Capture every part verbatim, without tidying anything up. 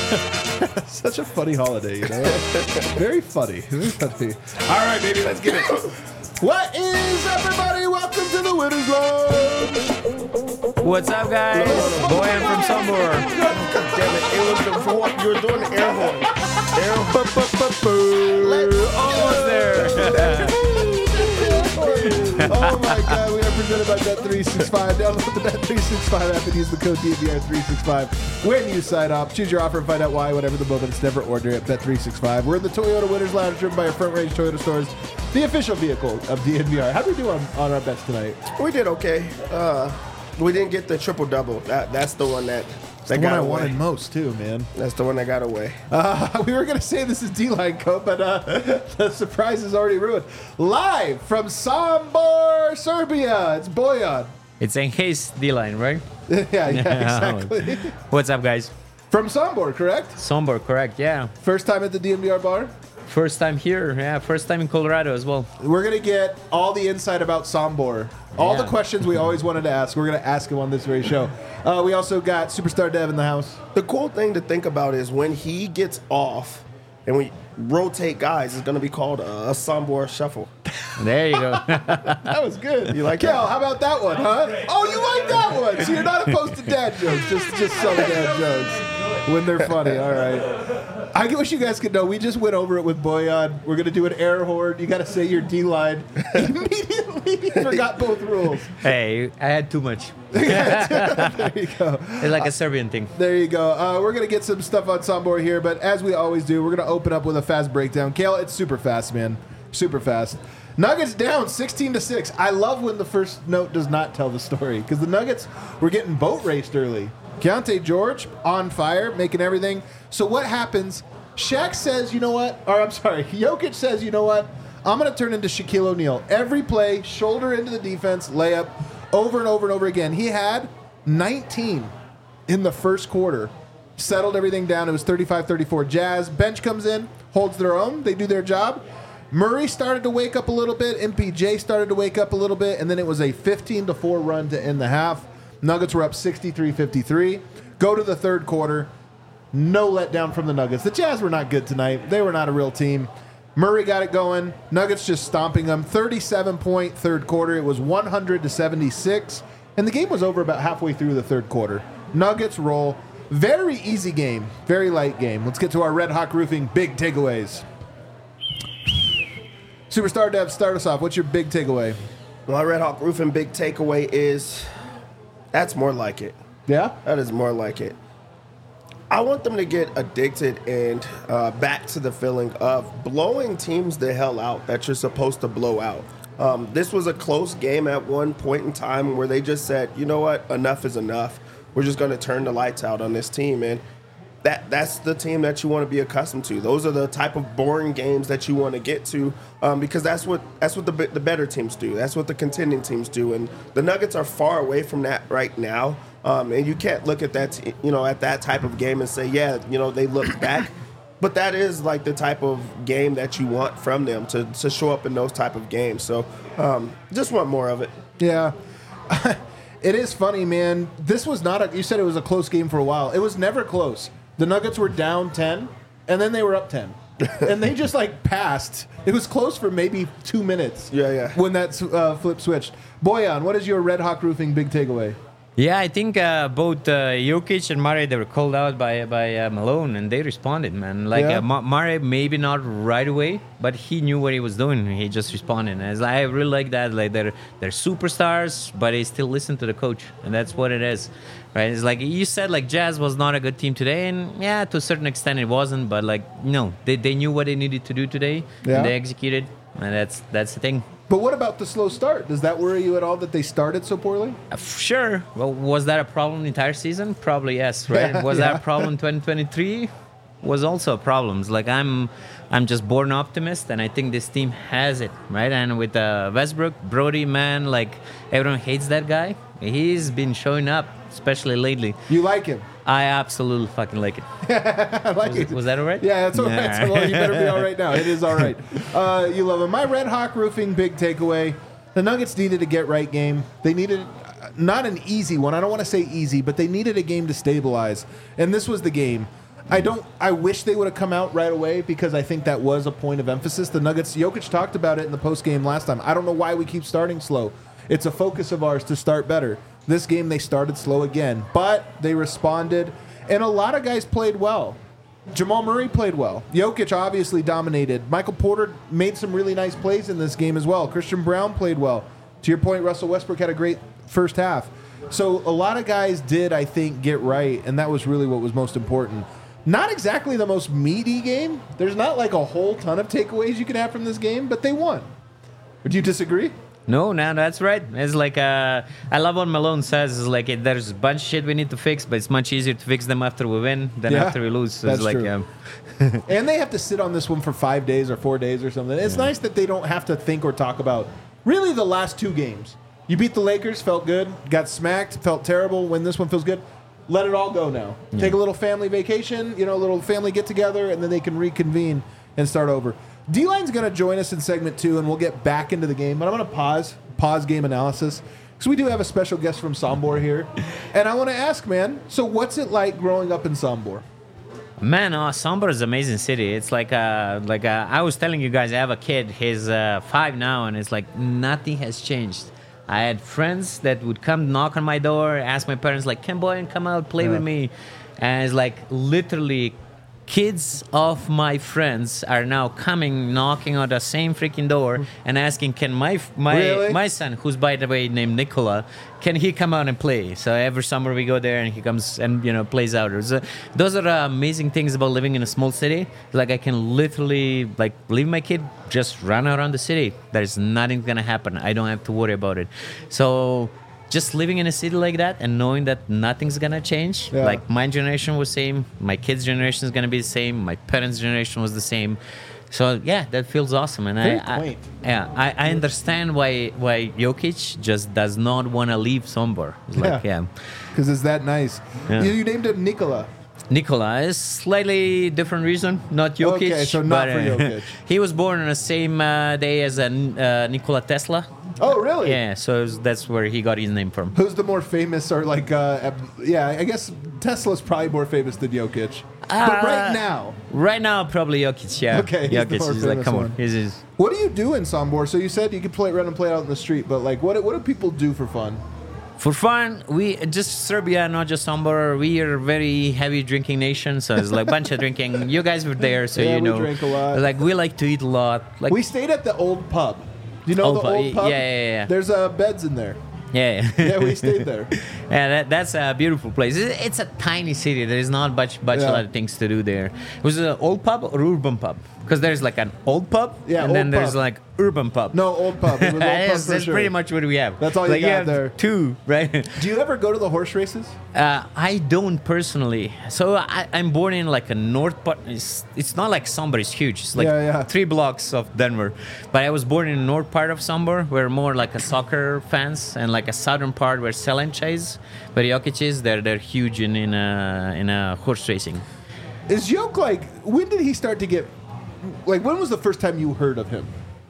Such a funny holiday, you know? Very funny. Very funny. All right, baby, let's get it. What is up, everybody? Welcome to the Winners Lounge. What's up, guys? No, no, no. Boy, I'm from Sombor. God damn it. It was the horn. You were doing the air horn. Air horn. Almost there. Oh my God, we are presented by Bet three sixty-five. Download the Bet three sixty-five app and use the code D V R three sixty-five when you sign up. Choose your offer and find out why, whatever the moment. It's never ordinary at Bet three sixty-five. We're in the Toyota Winners Lounge, driven by our front range Toyota stores, the official vehicle of D N V R. How did we do on, on our bets tonight? We did okay. Uh, we didn't get the triple double. That that's the one that that The got one I away. wanted most, too, man. That's the one that got away. Uh, we were going to say this is D-Line Cope, but uh, the surprise is already ruined. Live from Sombor, Serbia, it's Bojan. It's Encase D-line, right? yeah, yeah, exactly. What's up, guys? From Sombor, correct? Sombor, correct, yeah. First time at the D N V R bar? First time here, yeah. First time in Colorado as well. We're going to get all the insight about Sombor. All Yeah. the questions we always wanted to ask, we're going to ask him on this very show. Uh, we also got Superstar Dev in the house. The cool thing to think about is when he gets off and we rotate guys, it's going to be called a, a Sombor shuffle. There you go. That was good. You like Kel, that? how about that one, huh? Oh, you like that one. So you're not opposed to dad jokes, just just some dad jokes when they're funny. All right. I wish you guys could know. We just went over it with Bojan. We're going to do an air horn. You got to say your D-line. Immediately forgot both rules. Hey, I had too much. There you go. It's like a Serbian thing. There you go. Uh, we're going to get some stuff on Sombor here, but as we always do, we're going to open up with a fast breakdown. Kale, it's super fast, man. Super fast. Nuggets down sixteen to six. I love when the first note does not tell the story because the Nuggets were getting boat raced early. Keontae George on fire, making everything. So what happens? Shaq says, you know what? Or I'm sorry, Jokic says, you know what? I'm going to turn into Shaquille O'Neal. Every play, shoulder into the defense, layup, over and over and over again. He had nineteen in the first quarter. Settled everything down. It was thirty-five thirty-four Jazz. Bench comes in, holds their own. They do their job. Murray started to wake up a little bit. M P J started to wake up a little bit. And then it was a fifteen to four run to end the half. Nuggets were up sixty-three fifty-three. Go to the third quarter. No letdown from the Nuggets. The Jazz were not good tonight. They were not a real team. Murray got it going. Nuggets just stomping them. thirty-seven point third quarter. It was one hundred to seventy-six. And the game was over about halfway through the third quarter. Nuggets roll. Very easy game. Very light game. Let's get to our Red Hawk Roofing big takeaways. Superstar Dev, start us off. What's your big takeaway? My Red Hawk Roofing big takeaway is that's more like it. Yeah? That is more like it. I want them to get addicted and uh, back to the feeling of blowing teams the hell out that you're supposed to blow out. Um, this was a close game at one point in time where they just said, you know what, enough is enough. We're just going to turn the lights out on this team. And that that's the team that you want to be accustomed to. Those are the type of boring games that you want to get to um, because that's what that's what the the better teams do. That's what the contending teams do. And the Nuggets are far away from that right now. Um, and you can't look at that, t- you know, at that type of game and say, yeah, you know, they look back. But that is like the type of game that you want from them to, to show up in those type of games. So um, just want more of it. Yeah. It is funny, man. This was not a, you said it was a close game for a while. It was never close. The Nuggets were down ten, and then they were up ten. And they just, like, passed. It was close for maybe two minutes. Yeah, yeah. When that uh, flip switched. Bojan, what is your Red Hawk Roofing big takeaway? Yeah, I think uh, both uh, Jokic and Murray, they were called out by by uh, Malone, and they responded, man. Like Yeah. uh, Ma- Murray, maybe not right away, but he knew what he was doing. He just responded. And it's like, I really like that. Like they're they're superstars, but they still listen to the coach, and that's what it is, right? It's like you said, like Jazz was not a good team today, and yeah, to a certain extent it wasn't. But like no, they they knew what they needed to do today, Yeah. and they executed, and that's that's the thing. But what about the slow start? Does that worry you at all that they started so poorly? Uh, Sure. Well, was that a problem the entire season? Probably yes, right? Yeah, was yeah. that a problem twenty twenty-three? Was also a problem. Like I'm, I'm just born optimist, and I think this team has it, right? And with uh, Westbrook, Brody, man, like everyone hates that guy. He's been showing up, especially lately. You like him? I absolutely fucking like it. I like Was, it. was that all right? Yeah, that's all right. Nah. So, well, you better be all right now. It is all right. Uh, you love him. My Red Hawk Roofing big takeaway. The Nuggets needed a get-right game. They needed uh, not an easy one. I don't want to say easy, but they needed a game to stabilize. And this was the game. I don't. I wish they would have come out right away because I think that was a point of emphasis. The Nuggets, Jokic talked about it in the post game last time. I don't know why we keep starting slow. It's a focus of ours to start better. This game they started slow again, but they responded, and a lot of guys played well. Jamal Murray played well. Jokic obviously dominated. Michael Porter made some really nice plays in this game as well. Christian Brown played well. To your point, Russell Westbrook had a great first half. So a lot of guys did, I think, get right, and that was really what was most important. Not exactly the most meaty game. There's not like a whole ton of takeaways you can have from this game, but they won. Would you disagree? No, no, that's right. It's like uh, I love what Malone says. It's like it, there's a bunch of shit we need to fix, but it's much easier to fix them after we win than Yeah, after we lose. So that's it's like, true. Um, And they have to sit on this one for five days or four days or something. It's nice that they don't have to think or talk about really the last two games. You beat the Lakers, felt good. Got smacked, felt terrible. When this one feels good, let it all go now. Yeah. Take a little family vacation, you know, a little family get together, and then they can reconvene and start over. D-Line's going to join us in segment two, and we'll get back into the game. But I'm going to pause, pause game analysis, because we do have a special guest from Sombor here. And I want to ask, man, so what's it like growing up in Sombor? Man, uh, Sombor is an amazing city. It's like, uh, like uh, I was telling you guys, I have a kid. He's uh, five now, and it's like nothing has changed. I had friends that would come knock on my door, ask my parents, like, "Can boy and come out, play Yeah. with me?" And it's like literally kids of my friends are now coming, knocking on the same freaking door and asking, "Can my my Really? my son, who's by the way named Nicola, can he come out and play?" So every summer we go there and he comes and you know plays out. So those are the amazing things about living in a small city. Like I can literally like leave my kid, just run around the city. There's nothing gonna happen. I don't have to worry about it. So. Just living in a city like that and knowing that nothing's gonna change. Yeah. Like my generation was same, my kids' generation is gonna be the same, my parents' generation was the same. So yeah, that feels awesome, and Very I, I quaint. yeah I, I understand why why Jokic just does not want to leave Sombor. It's like Yeah. yeah, Because it's that nice. Yeah. You, you named it Nikola. Nikola is slightly different reason, not Jokic. Okay, so not but, for uh, Jokic. He was born on the same uh, day as uh, uh, Nikola Tesla. Oh, really? Yeah, so that's where he got his name from. Who's the more famous or like, uh, ab- yeah, I guess Tesla's probably more famous than Jokic. but Uh, right now, Right now, probably Jokic. Yeah. Okay, he's the Jokic more is like, famous come one. on, he's is. what do you do in Sombor? So you said you could play run and play out in the street, but like, what what do people do for fun? For fun, we just Serbia, not just Sombor. We are a very heavy drinking nation, so it's like a bunch of drinking. You guys were there, so Yeah, you we know. drink a lot. Like we like to eat a lot. Like We stayed at the old pub. Do you know Old the pub, old y- pub? yeah, yeah, yeah. There's uh, beds in there. yeah, yeah. Yeah, we stayed there. Yeah, that, that's a beautiful place. It- It's a tiny city. There is not much, much Yeah. a lot of things to do there. It was an old pub or urban pub? Because there's like an old pub, Yeah, and then old there's pub. like urban pub. No, old pub. It was old pub that's for that's sure. pretty much what we have. That's all you like, got have there. Two, right? Do you ever go to the horse races? Uh, I don't personally. So I, I'm born in like a north part. It's, it's not like Sombor is huge. It's like Yeah, yeah. three blocks of Denver. But I was born in the north part of Sombor. We're more like a soccer fans, and like a southern part where Selencha is, where Jokic is. They're they're huge in in uh, in uh, horse racing. Is Joke like, when did he start to get, like, when was the first time you heard of him?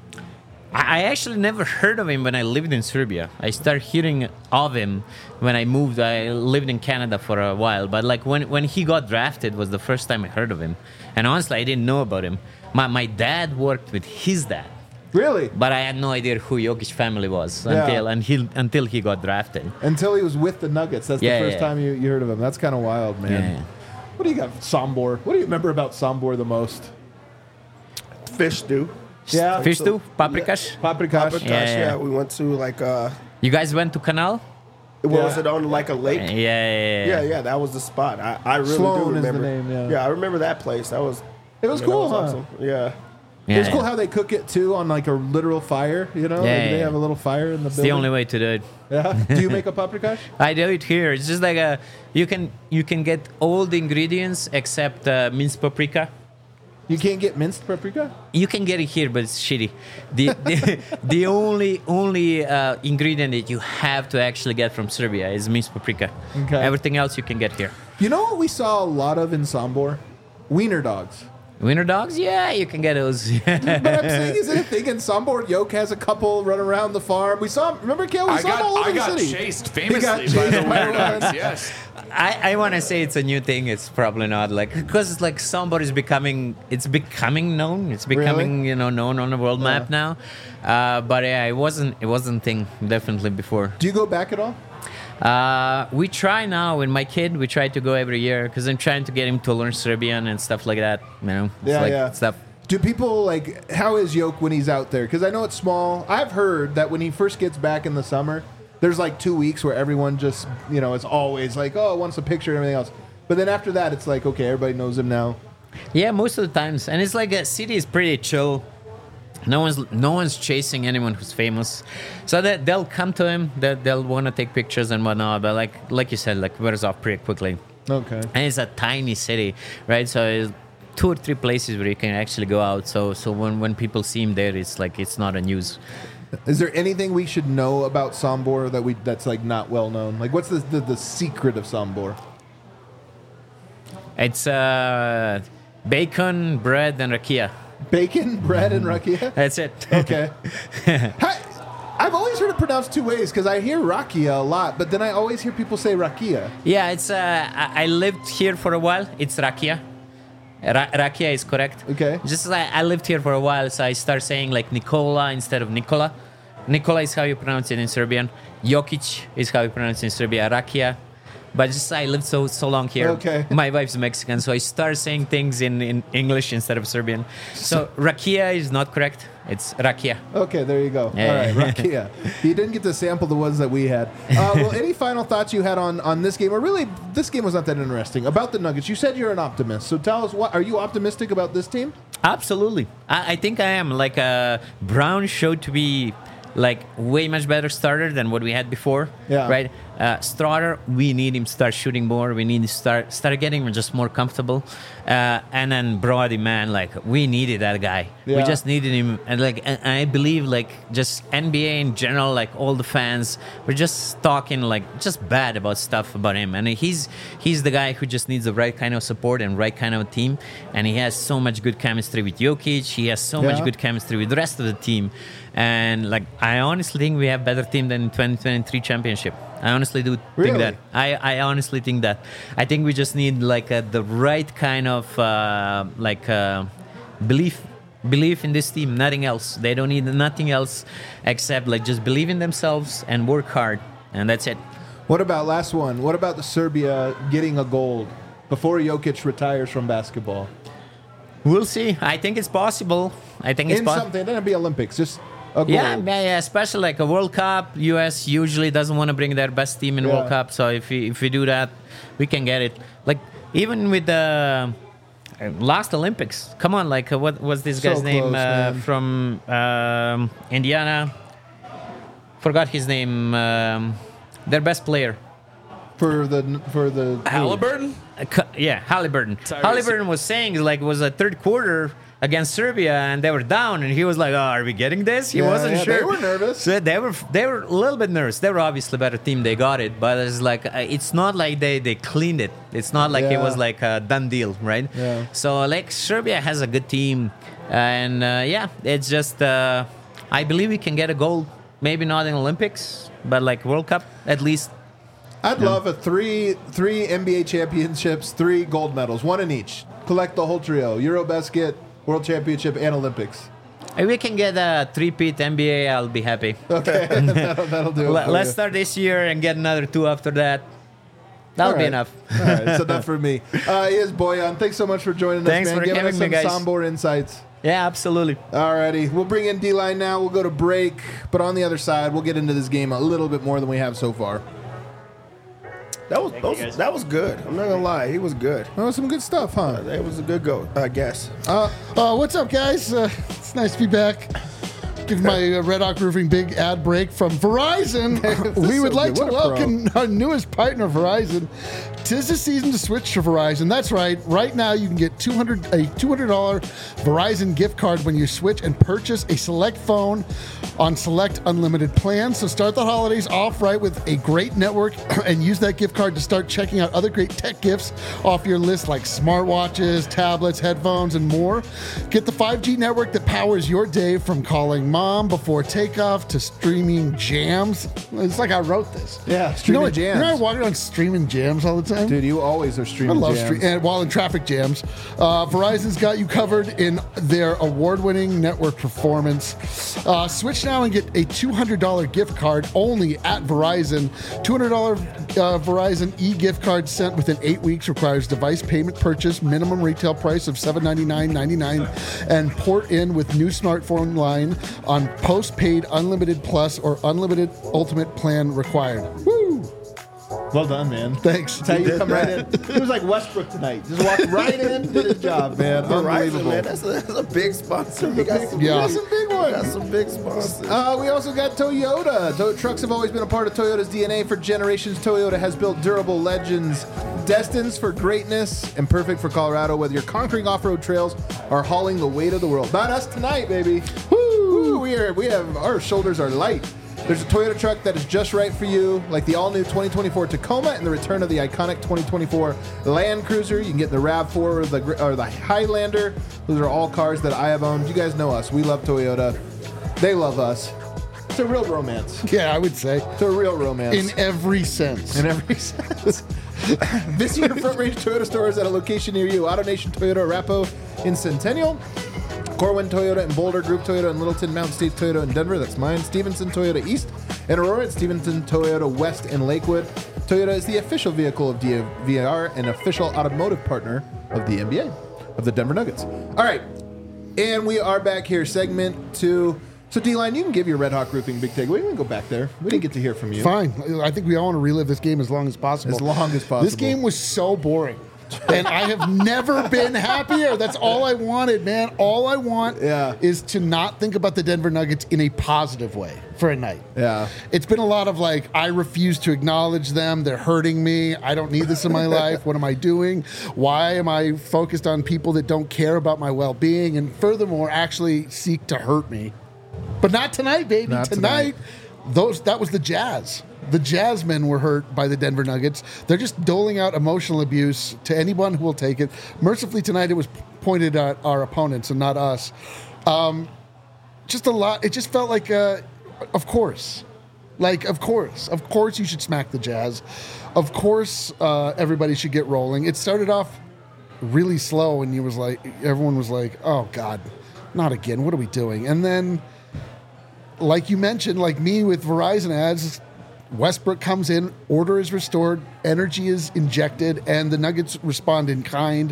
I I actually never heard of him when I lived in Serbia. I started hearing of him when I moved. I lived in Canada for a while, but like when, when he got drafted was the first time I heard of him. And honestly, I didn't know about him. My my dad worked with his dad, Really? but I had no idea who Jokic family was Yeah. until until until he got drafted. Until he was with the Nuggets. That's Yeah, the first yeah. time you, you heard of him. That's kind of wild, man. Yeah. What do you got, Sombor? What do you remember about Sombor the most? Fish stew. Yeah. Fish stew, paprikash. Paprikash. Paprikash, Yeah, yeah, yeah. we went to like uh You guys went to Canal? what Yeah. was it on like a lake? Yeah, yeah, yeah. Yeah, yeah, that was the spot. I, I really Sloan do is the remember. name, yeah. I remember that place. That was It was I mean, cool, that huh? was awesome. Yeah. Yeah, It was cool yeah. how they cook it too on like a literal fire. You know, Yeah, like yeah, they yeah. have a little fire in the It's building. the only way to do it. Yeah. Do you make a paprikash? I do it here. It's just like a you can you can get all the ingredients except uh, minced paprika. You can't get minced paprika. You can get it here, but it's shitty. The the, the only only uh, ingredient that you have to actually get from Serbia is minced paprika. Okay. Everything else you can get here. You know what we saw a lot of in Sombor? Wiener dogs. Wiener dogs, yeah, you can get those. But I'm saying, is it a thing in Sombor? Yoke has a couple run around the farm. We saw him. Remember, Kel? We I saw him all got, over I got the city. chased He famously got by chased the by Wiener one. Dogs. Yes. I, I want to say it's a new thing. It's probably not like because it's like somebody's becoming. It's becoming known. It's becoming Really? you know known on the world Yeah. map now. Uh, but yeah, it wasn't. It wasn't thing definitely before. Do you go back at all? Uh, we try now with my kid. We try to go every year because I'm trying to get him to learn Serbian and stuff like that. You know, it's Yeah, like yeah. stuff. Do people like how is Yoke when he's out there? Because I know it's small. I've heard that when he first gets back in the summer, there's like two weeks where everyone just you know it's always like oh wants a picture and everything else. But then after that, it's like okay, everybody knows him now. Yeah, most of the times, and it's like a city is pretty chill. No one's no one's chasing anyone who's famous, so that they'll come to him. That they'll want to take pictures and whatnot. But like like you said, like wears off pretty quickly. Okay. And it's a tiny city, right? So it's two or three places where you can actually go out. So so when when people see him there, it's like it's not a news. Is there anything we should know about Sombor that we that's like not well known? Like what's the the, the secret of Sombor? It's uh, bacon, bread, and rakia. Bacon, bread, and rakia. That's it. Okay. Hi- I've always heard it pronounced two ways because I hear rakia a lot, but then I always hear people say rakia. Yeah, it's. Uh, I I lived here for a while. It's rakia. Ra- rakia is correct. Okay. Just like I lived here for a while, so I start saying like Nikola instead of Nikola. Nikola is how you pronounce it in Serbian. Jokic is how you pronounce it in Serbia. Rakia. But just I lived so so long here. Okay. My wife's Mexican, so I start saying things in, in English instead of Serbian. So rakia is not correct. It's rakia. Okay, there you go. Yeah. All right, rakia. You didn't get to sample the ones that we had. Uh, well, any final thoughts you had on, on this game? Or really, this game was not that interesting. About the Nuggets, you said you're an optimist. So tell us, what are you optimistic about this team? Absolutely. I, I think I am. Like uh, Brown showed to be like way much better starter than what we had before. Yeah. Right. Uh, Strotter, we need him to start shooting more. We need to start start getting him just more comfortable. Uh, and then Brody, man, like we needed that guy. Yeah. We just needed him. And like, and I believe like just N B A in general, like all the fans were just talking like just bad about stuff about him. And he's he's the guy who just needs the right kind of support and right kind of team. And he has so much good chemistry with Jokic. He has so Yeah. much good chemistry with the rest of the team. And like, I honestly think we have better team than twenty twenty-three championship. I honestly do Really? think that. I, I honestly think that. I think we just need like a, the right kind of uh, like uh, belief belief in this team. Nothing else. They don't need nothing else except like just believe in themselves and work hard, and that's it. What about last one? What about the Serbia getting a gold before Jokic retires from basketball? We'll see. I think it's possible. I think it's In possible. something, it doesn't be Olympics, just a gold. Yeah, yeah, yeah, especially like a World Cup. U S usually doesn't want to bring their best team in Yeah. World Cup, so if we, if we do that, we can get it. Like even with the uh, last Olympics, come on, like uh, what was this So guy's name close, uh, man. from um, Indiana? Forgot his name. Um, their best player. for the for the Halliburton? Uh, cu- yeah, Halliburton. Tyrese. Halliburton was saying like it was a third quarter against Serbia and they were down and he was like, "Oh, are we getting this?" He Yeah, wasn't yeah, sure. they were nervous. So they were they were a little bit nervous. They were obviously a better team. They got it, but it's like uh, it's not like they they cleaned it. It's not like it Yeah. was like a done deal, right? Yeah. So like Serbia has a good team, and uh, yeah, it's just uh, I believe we can get a gold. Maybe not in Olympics, but like World Cup at least. I'd love a three three N B A championships, three gold medals, one in each. Collect the whole trio: Eurobasket, World Championship, and Olympics. If we can get a three-peat N B A, I'll be happy. Okay, that'll, that'll do it. Let- for Let's you. start this year and get another two after that. That'll All be right. enough. All right, it's enough for me. Uh, he is Boyan. Thanks so much for joining Thanks us, man. for Giving having us me, some guys. Sombor insights. Yeah, absolutely. Alrighty, we'll bring in D-Line now. We'll go to break, but on the other side, we'll get into this game a little bit more than we have so far. That was, those, that was good. I'm not gonna lie, he was good. Oh, some good stuff, huh? That was a good go, I guess. Uh, Uh, what's up, guys? Uh, it's nice to be back. Give my uh, Red Hawk Roofing big ad break from Verizon. we would so like good. to What a pro. welcome our newest partner, Verizon. Tis the season to switch to Verizon. That's right. Right now, you can get two hundred a two hundred dollars Verizon gift card when you switch and purchase a select phone on select unlimited plans. So start the holidays off right with a great network and use that gift card to start checking out other great tech gifts off your list like smartwatches, tablets, headphones, and more. Get the five G network that powers your day from calling mom before takeoff to streaming jams. It's like I wrote this. Yeah, You know, streaming what- jams. You know I walk around streaming jams all the time? Dude, you always are I streaming love jams. stre- and while in traffic jams. Uh, Verizon's got you covered in their award-winning network performance. Uh, switch now and get a two hundred dollars gift card only at Verizon. two hundred dollars uh, Verizon e-gift card sent within eight weeks requires device payment purchase, minimum retail price of seven hundred ninety-nine dollars and ninety-nine cents, and port in with new smartphone line on postpaid unlimited plus or unlimited ultimate plan required. Woo! Well done, man. Thanks. That's how you come right in. He was like Westbrook tonight. Just walked right in, did his job, man. Verizon, Unbelievable. man, that's a, that's a big sponsor. We got some, Yeah. We got some big we got ones. some big sponsors. Uh, we also got Toyota. To- trucks have always been a part of Toyota's D N A for generations. Toyota has built durable legends, destined for greatness and perfect for Colorado. Whether you're conquering off-road trails or hauling the weight of the world, about us tonight, baby. Woo! We are. We have our shoulders are light. There's a Toyota truck that is just right for you, like the all-new twenty twenty-four Tacoma and the return of the iconic twenty twenty-four Land Cruiser. You can get the RAV four or the gr- or the Highlander. Those are all cars that I have owned. You guys know us. We love Toyota. They love us. It's a real romance. Yeah, I would say. It's a real romance. In every sense. In every sense. Visit your Front Range Toyota stores at a location near you. AutoNation Toyota Arapahoe in Centennial. Corwin Toyota in Boulder, Group Toyota in Littleton, Mountain States Toyota in Denver, that's mine. Stevenson Toyota East in Aurora, and Stevenson Toyota West in Lakewood. Toyota is the official vehicle of D V R and official automotive partner of the N B A, of the Denver Nuggets. All right, and we are back here, segment two. So, D-Line, you can give your Red Hawk Roofing big takeaway. We can go back there. We didn't get to hear from you. Fine. I think we all want to relive this game as long as possible. As long as possible. This game was so boring. And I have never been happier. That's all I wanted, man. All I want Yeah. is to not think about the Denver Nuggets in a positive way for a night. Yeah. It's been a lot of like, I refuse to acknowledge them. They're hurting me. I don't need this in my life. What am I doing? Why am I focused on people that don't care about my well being and furthermore actually seek to hurt me? But not tonight, baby. Not tonight, those that was the Jazz. The Jazzmen were hurt by the Denver Nuggets. They're just doling out emotional abuse to anyone who will take it. Mercifully, tonight it was pointed at our opponents and not us. Um, just a lot. It just felt like, uh, of course. Like, of course. Of course you should smack the Jazz. Of course uh, everybody should get rolling. It started off really slow and you was like, everyone was like, oh, God, not again. What are we doing? And then, like you mentioned, like me with Verizon ads, Westbrook comes in, order is restored, energy is injected, and the Nuggets respond in kind.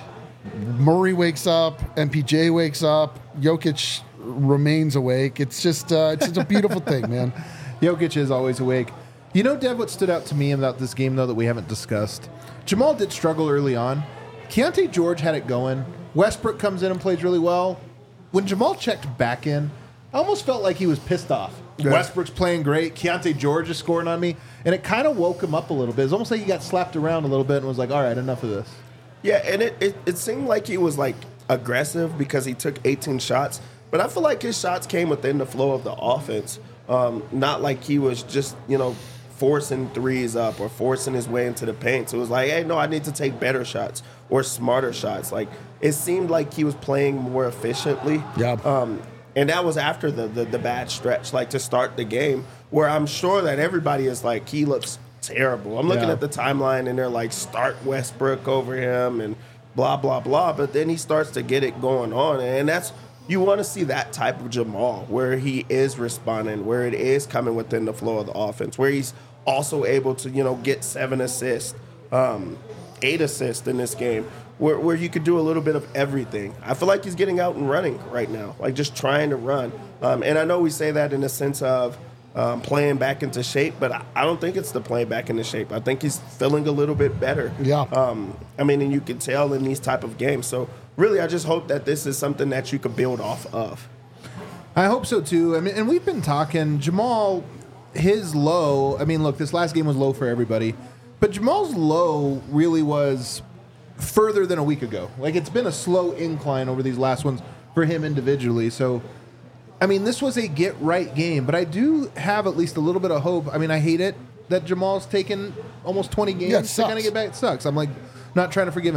Murray wakes up, M P J wakes up, Jokic remains awake. It's just, uh, it's just a beautiful thing, man. Jokic is always awake. You know, Dev, what stood out to me about this game, though, that we haven't discussed? Jamal did struggle early on. Keontae George had it going. Westbrook comes in and plays really well. When Jamal checked back in, I almost felt like he was pissed off. Yeah. Westbrook's playing great. Keontae George is scoring on me. And it kind of woke him up a little bit. It's almost like he got slapped around a little bit and was like, all right, enough of this. Yeah, and it, it, it seemed like he was like aggressive because he took eighteen shots, but I feel like his shots came within the flow of the offense. Um, not like he was just, you know, forcing threes up or forcing his way into the paint. So it was like, hey, no, I need to take better shots or smarter shots. Like it seemed like he was playing more efficiently. Yeah. Um, and that was after the, the the bad stretch, like to start the game, where I'm sure that everybody is like, he looks terrible. I'm looking Yeah. at the timeline and they're like, start Westbrook over him and blah, blah, blah. But then he starts to get it going on. And that's, you want to see that type of Jamal where he is responding, where it is coming within the flow of the offense, where he's also able to, you know, get seven assists, um, eight assists in this game, where, where you could do a little bit of everything. I feel like he's getting out and running right now, like just trying to run. Um, and I know we say that in the sense of um, playing back into shape, but I, I don't think it's the playing back into shape. I think he's feeling a little bit better. Yeah. Um, I mean, and you can tell in these type of games. So really, I just hope that this is something that you could build off of. I hope so too. I mean, and we've been talking Jamal, his low. I mean, look, this last game was low for everybody, but Jamal's low really was further than a week ago. Like it's been a slow incline over these last ones for him individually. So, I mean, this was a get right game, but I do have at least a little bit of hope. I mean, I hate it that Jamal's taken almost twenty games Yeah, it to kind of sucks. get back. It sucks. I'm like not trying to forgive him.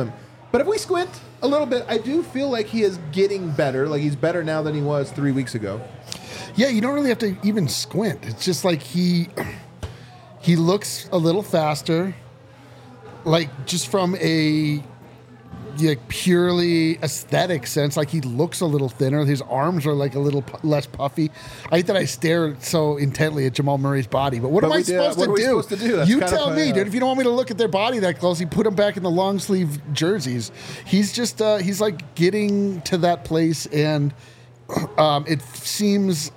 But if we squint a little bit, I do feel like he is getting better. Like he's better now than he was three weeks ago. Yeah, you don't really have to even squint. It's just like he he looks a little faster. Like just from a like purely aesthetic sense, like he looks a little thinner. His arms are like a little pu- less puffy. I hate that I stare so intently at Jamal Murray's body, but what But am I we did- supposed, what to are we do? supposed to do? That's You kind of tell a- me, dude. If you don't want me to look at their body that closely, put him back in the long sleeve jerseys. He's just uh, he's like getting to that place, and um, it seems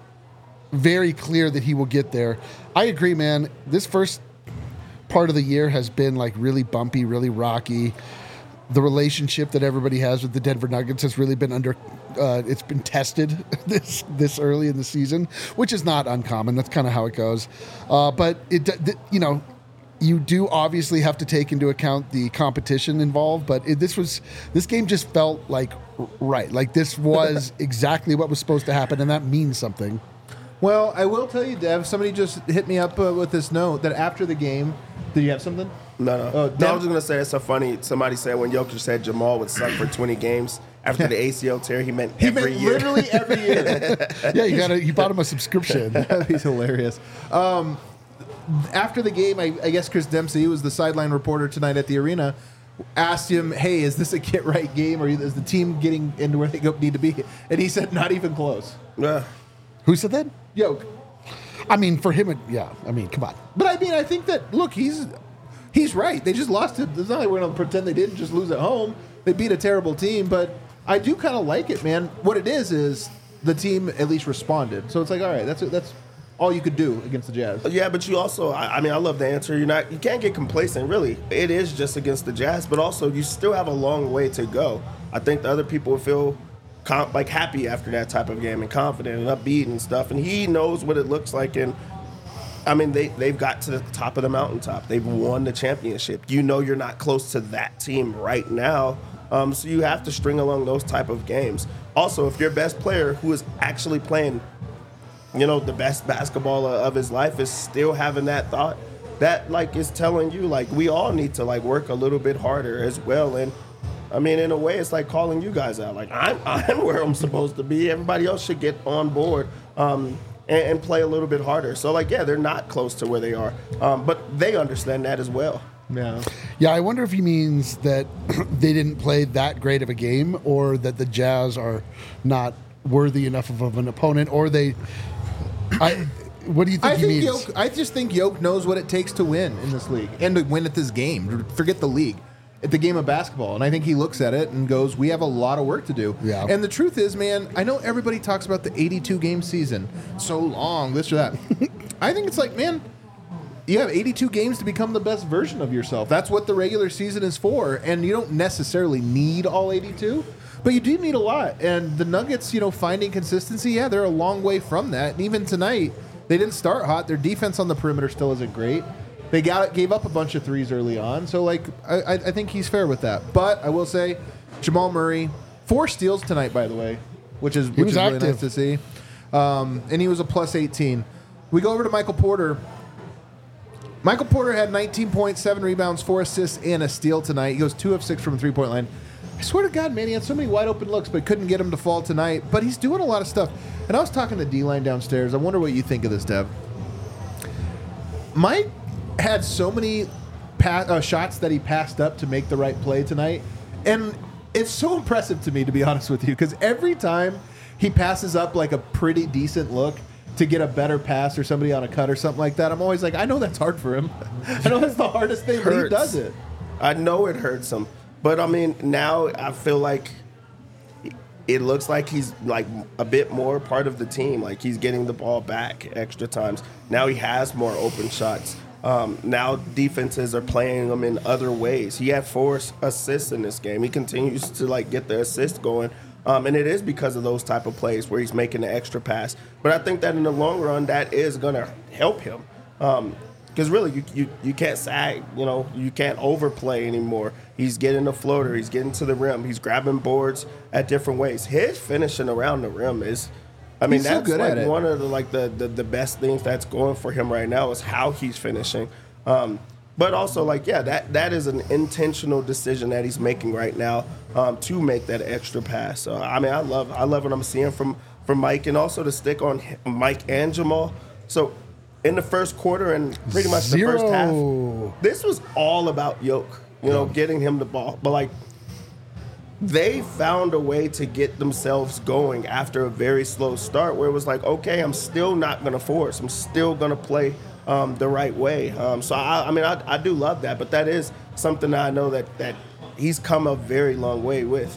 very clear that he will get there. I agree, man. This first part of the year has been like really bumpy, really rocky. The relationship that everybody has with the Denver Nuggets has really been under, uh, it's been tested this this early in the season, which is not uncommon. That's kind of how it goes. Uh, but it, th- you know, you do obviously have to take into account the competition involved. But it, this was this game just felt like r- right, like this was exactly what was supposed to happen, and that means something. Well, I will tell you, Dev, somebody just hit me up uh, with this note that after the game, did you have something? No, no. Oh, no, I damn. was just gonna say it's so funny. Somebody said when Jokic said Jamal would suck for twenty games after the A C L tear, he meant He every meant year. literally every year. Yeah, you got to you bought him a subscription. He's hilarious. Um, after the game, I, I guess Chris Dempsey, who was the sideline reporter tonight at the arena, asked him, "Hey, is this a get right game, or is the team getting into where they go, need to be?" And he said, "Not even close." Yeah. Who said that? Yoke. I mean, for him, it, yeah. I mean, come on. But I mean, I think that look, he's he's right. They just lost it. It's not like we're going to pretend they didn't just lose at home. They beat a terrible team, but I do kind of like it, man. What it is is the team at least responded. So it's like, all right, that's that's all you could do against the Jazz. Yeah, but you also, I, I mean, I love the answer. You're not, you can't get complacent, really. It is just against the Jazz, but also you still have a long way to go. I think the other people feel com- like happy after that type of game and confident and upbeat and stuff, and he knows what it looks like. And I mean, they they've got to the top of the mountaintop. They've won the championship. You know, you're not close to that team right now. Um, so you have to string along those type of games. Also, if your best player who is actually playing, you know, the best basketball of his life is still having that thought, that like is telling you like we all need to like work a little bit harder as well. And I mean, in a way, it's like calling you guys out. Like I'm, I'm where I'm supposed to be. Everybody else should get on board um, and, and play a little bit harder. So like, yeah, they're not close to where they are, um, but they understand that as well. Yeah. Yeah, I wonder if he means that they didn't play that great of a game, or that the Jazz are not worthy enough of, of an opponent, or they. I. What do you think I he think means? Yoke, I just think Yoke knows what it takes to win in this league and to win at this game. Forget the league, at the game of basketball. And I think he looks at it and goes, "We have a lot of work to do." Yeah. And the truth is, man, I know everybody talks about the eighty-two game season, so long, this or that. I think it's like, man, you have eighty-two games to become the best version of yourself. That's what the regular season is for, and you don't necessarily need all eighty-two. But you do need a lot. And the Nuggets, you know, finding consistency, yeah, they're a long way from that. And even tonight, they didn't start hot. Their defense on the perimeter still isn't great. They got gave up a bunch of threes early on. So, like, I, I I think he's fair with that. But I will say, Jamal Murray, four steals tonight, by the way, which is, which was is really active. nice to see. Um, and he was a plus eighteen. We go over to Michael Porter. Michael Porter had nineteen points, seven rebounds, four assists, and a steal tonight. He goes two of six from the three-point line. I swear to God, man, he had so many wide-open looks, but couldn't get him to fall tonight. But he's doing a lot of stuff. And I was talking to D-Line downstairs. I wonder what you think of this, Dev. Mike had so many pa- uh, shots that he passed up to make the right play tonight. And it's so impressive to me, to be honest with you, because every time he passes up like a pretty decent look to get a better pass or somebody on a cut or something like that, I'm always like, I know that's hard for him. I know that's the hardest thing, but he Hurts. does it. I know it hurts him, but I mean, now I feel like it looks like he's like a bit more part of the team. Like he's getting the ball back extra times. Now he has more open shots. Um, now defenses are playing him in other ways. He had four assists in this game. He continues to like get the assist going. Um, and it is because of those type of plays where he's making the extra pass. But I think that in the long run, that is going to help him. Um, Because really, you, you you can't sag, you know, you can't overplay anymore. He's getting the floater, he's getting to the rim, he's grabbing boards at different ways. His finishing around the rim is, I mean, He's so that's good like at it. one of the like the, the the best things that's going for him right now is how he's finishing. Um, But also, like, yeah, that, that is an intentional decision that he's making right now um, to make that extra pass. So, I mean, I love I love what I'm seeing from, from Mike, and also to stick on Mike and Jamal. So, in the first quarter and pretty much Zero. the first half, this was all about Yoke, you know, getting him the ball. But, like, they found a way to get themselves going after a very slow start where it was like, okay, I'm still not going to force. I'm still going to play um, the right way. Um, so, I, I mean, I, I do love that. But that is something that I know that, that he's come a very long way with.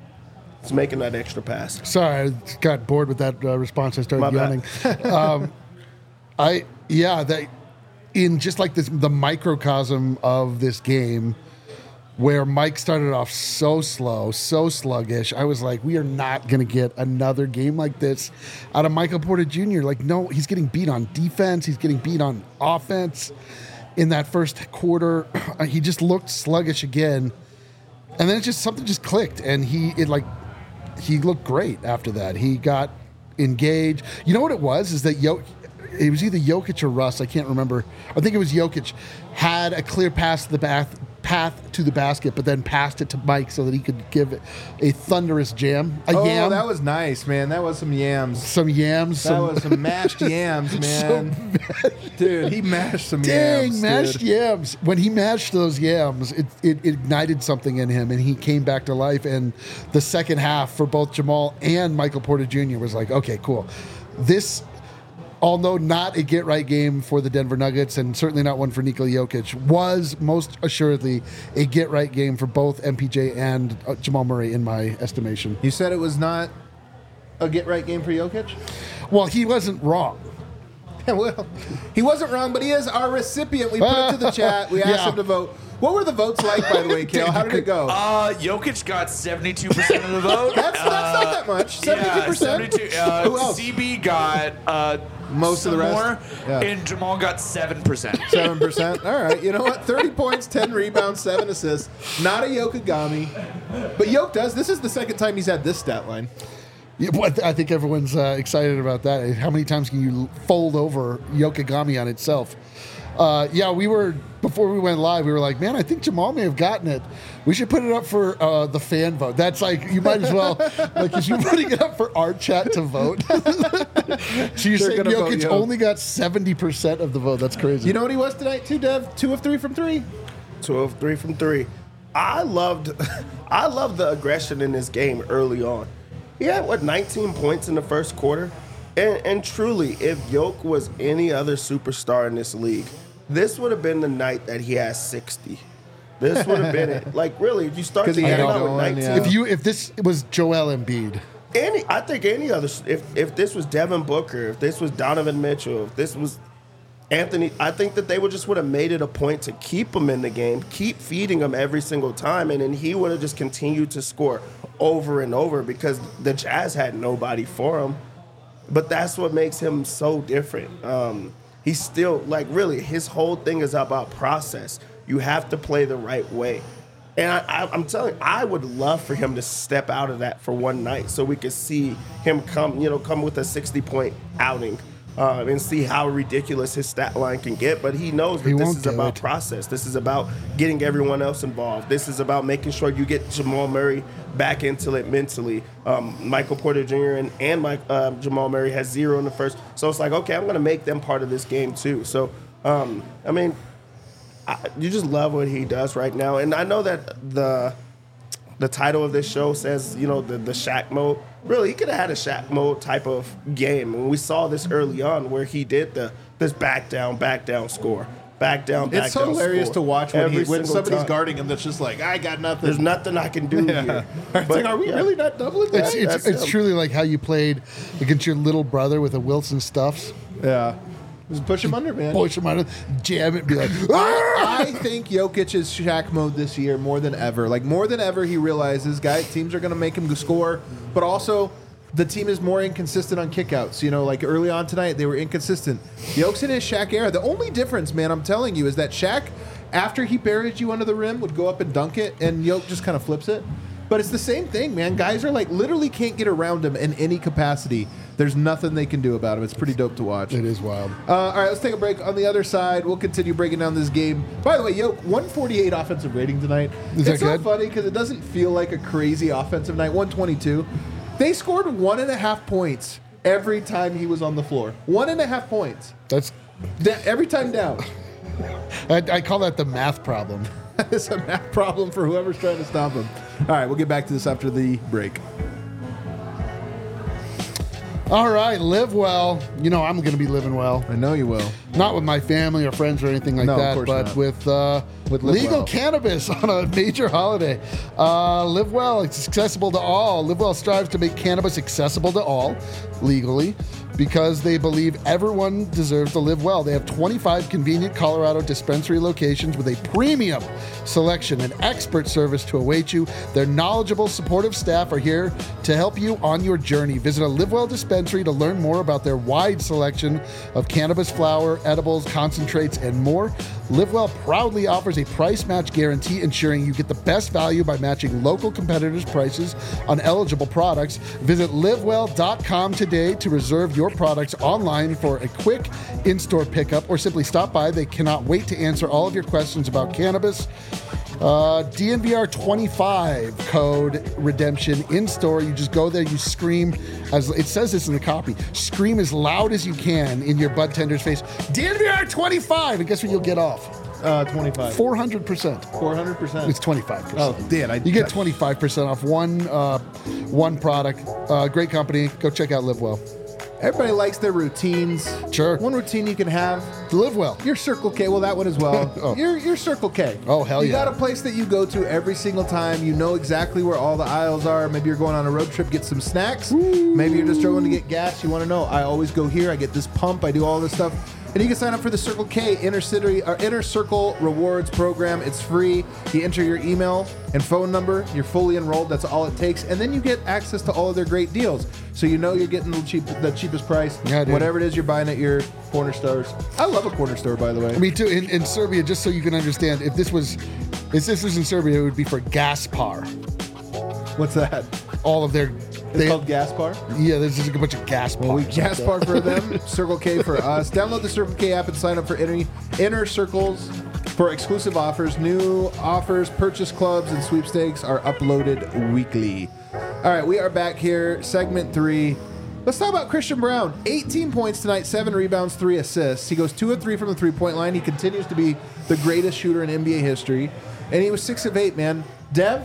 It's making that extra pass. Sorry, I got bored with that uh, response. I started My yawning. bad. um, I, yeah, that in just like this, the microcosm of this game, where Mike started off so slow, so sluggish, I was like, we are not going to get another game like this out of Michael Porter Junior Like, no, he's getting beat on defense. He's getting beat on offense. In that first quarter, he just looked sluggish again. And then it just, something just clicked. And he, it like, he looked great after that. He got engaged. You know what it was? Is that Jokic, it was either Jokic or Russ, I can't remember. I think it was Jokic, had a clear pass to the bath, path to the basket, but then passed it to Mike so that he could give it a thunderous jam. A Oh, yam. that was nice, man. That was some yams. Some yams. That Some, was some mashed yams, man. Dude, he mashed some dang, yams. mashed dude. yams. When he mashed those yams, it, it ignited something in him, and he came back to life. And the second half for both Jamal and Michael Porter Junior was like, okay, cool. This, although not a get-right game for the Denver Nuggets and certainly not one for Nikola Jokic, was most assuredly a get-right game for both M P J and uh, Jamal Murray in my estimation. You said it was not a get-right game for Jokic? Well, he wasn't wrong. Well, he wasn't wrong, but he is our recipient. We put it to the chat. We asked Yeah. him to vote. What were the votes like, by the way, Kale? How did it go? Uh, Jokic got seventy-two percent of the vote. That's, that's not that much. seventy-two percent? Yeah, seventy-two. Uh, Who else? C B got uh, Most of the some rest? more, Yeah. and Jamal got seven percent. seven percent. All right. You know what? thirty points, ten rebounds, seven assists. Not a Yokogami. But Yoke does. This is the second time he's had this stat line. Yeah, well, I think everyone's uh, excited about that. How many times can you fold over Yokogami on itself? Uh, yeah, we were, before we went live, we were like, man, I think Jamal may have gotten it. We should put it up for uh, the fan vote. That's like, you might as well, like, if you're putting it up for our chat to vote. So you're They're saying gonna vote Jokic Yoke. only got seventy percent of the vote. That's crazy. You know what he was tonight, too, Dev? Two of three from three. Two of three from three. I loved, I loved the aggression in this game early on. He had what nineteen points in the first quarter, and, and truly, if Yoke was any other superstar in this league, this would have been the night that he has sixty. This would have been it. Like really, if you start 'Cause to he get had out it with going, nineteen, yeah. if you if this was Joel Embiid, any, I think any other, if if this was Devin Booker, if this was Donovan Mitchell, if this was Anthony, I think that they would just would have made it a point to keep him in the game, keep feeding him every single time, and then he would have just continued to score over and over because the Jazz had nobody for him. But that's what makes him so different. Um, he's still, like, really, his whole thing is about process. You have to play the right way. And I, I, I'm telling you, I would love for him to step out of that for one night so we could see him come, you know, come with a sixty-point outing uh, and see how ridiculous his stat line can get. But he knows that He this won't is do about it. process. This is about getting everyone else involved. This is about making sure you get Jamal Murray back into it mentally. Um, Michael Porter Junior and, and Mike, uh, Jamal Murray has zero in the first. So it's like, okay, I'm going to make them part of this game too. So, um, I mean, I, you just love what he does right now. And I know that the the title of this show says, you know, the, the Shaq mode. Really, he could have had a Shaq mode type of game. And we saw this early on where he did the this back down, back down score. Back down, back It's so down hilarious score. to watch when, he, Every when single somebody's time. guarding him that's just like, I got nothing. There's nothing I can do Yeah. here. It's like, are we yeah. really not doubling it's that? it's, that's it's him. truly like how you played against your little brother with a Wilson Stuffs. Yeah. Just push him under, man. Push him out, jam it, and be like, I, I think Jokic is Shaq mode this year more than ever. Like, more than ever, he realizes guys, teams are going to make him score, but also the team is more inconsistent on kickouts. You know, like early on tonight, they were inconsistent. Jokic in his Shaq era. The only difference, man, I'm telling you, is that Shaq, after he buried you under the rim, would go up and dunk it, and Jokic just kind of flips it. But it's the same thing, man. Guys are like literally can't get around him in any capacity. There's nothing they can do about him. It's pretty dope to watch. It is wild. Uh, all right, let's take a break. On the other side, we'll continue breaking down this game. By the way, yo, one forty-eight offensive rating tonight. Is that it's not good? funny because it doesn't feel like a crazy offensive night. one twenty-two. They scored one and a half points every time he was on the floor. One and a half points. That's Da- every time down. I, I call that the math problem. It's a math problem for whoever's trying to stop him. All right, we'll get back to this after the break. All right, live well. You know I'm going to be living well. I know you will. Not with my family or friends or anything like No, of that, course but not. with uh, With Live legal Well. cannabis on a major holiday. Uh, live well. It's accessible to all. Live well strives to make cannabis accessible to all legally because they believe everyone deserves to live well. They have twenty-five convenient Colorado dispensary locations with a premium selection and expert service to await you. Their knowledgeable, supportive staff are here to help you on your journey. Visit a Live Well dispensary to learn more about their wide selection of cannabis flower, edibles, concentrates, and more. Live Well proudly offers a price match guarantee, ensuring you get the best value by matching local competitors' prices on eligible products. Visit live well dot com today to reserve your products online for a quick in-store pickup, or simply stop by. They cannot wait to answer all of your questions about cannabis. Uh, D N V R twenty-five code redemption in store. You just go there, you scream, as it says this in the copy, scream as loud as you can in your bud tender's face, D N V R twenty-five, and guess what you'll get off? Uh, twenty-five. four hundred percent. four hundred percent. It's twenty-five percent. Oh, Dan, I You get twenty-five percent off one uh, one product. Uh, great company. Go check out Live Well. Everybody likes their routines. Sure. One routine you can have. Live Well. Your Circle K, well, that one as well. Oh. Your your Circle K. Oh, hell you yeah. got a place that you go to every single time. You know exactly where all the aisles are. Maybe you're going on a road trip, get some snacks. Maybe you're just going to get gas. You want to know, I always go here. I get this pump. I do all this stuff. And you can sign up for the Circle K Inner City or Inner Circle Rewards program. It's free. You enter your email and phone number. You're fully enrolled. That's all it takes. And then you get access to all of their great deals. So you know you're getting the cheap, the cheapest price. Yeah, dude. Whatever it is you're buying at your corner stores. I love a corner store, by the way. Me too. In, in Serbia, just so you can understand, if this was if this was in Serbia, it would be for Gaspar. What's that? All of their It's they, called Gaspar. yeah, there's just a bunch of Gaspar. Well, we Gaspar for them, Circle K for us. Download the Circle K app and sign up for Inner, inner Circles for exclusive offers. New offers, purchase clubs, and sweepstakes are uploaded weekly. All right, we are back here, segment three. Let's talk about Christian Brown. eighteen points tonight, seven rebounds, three assists. He goes two of three from the three-point line. He continues to be the greatest shooter in N B A history. And he was six of eight, man. Dev,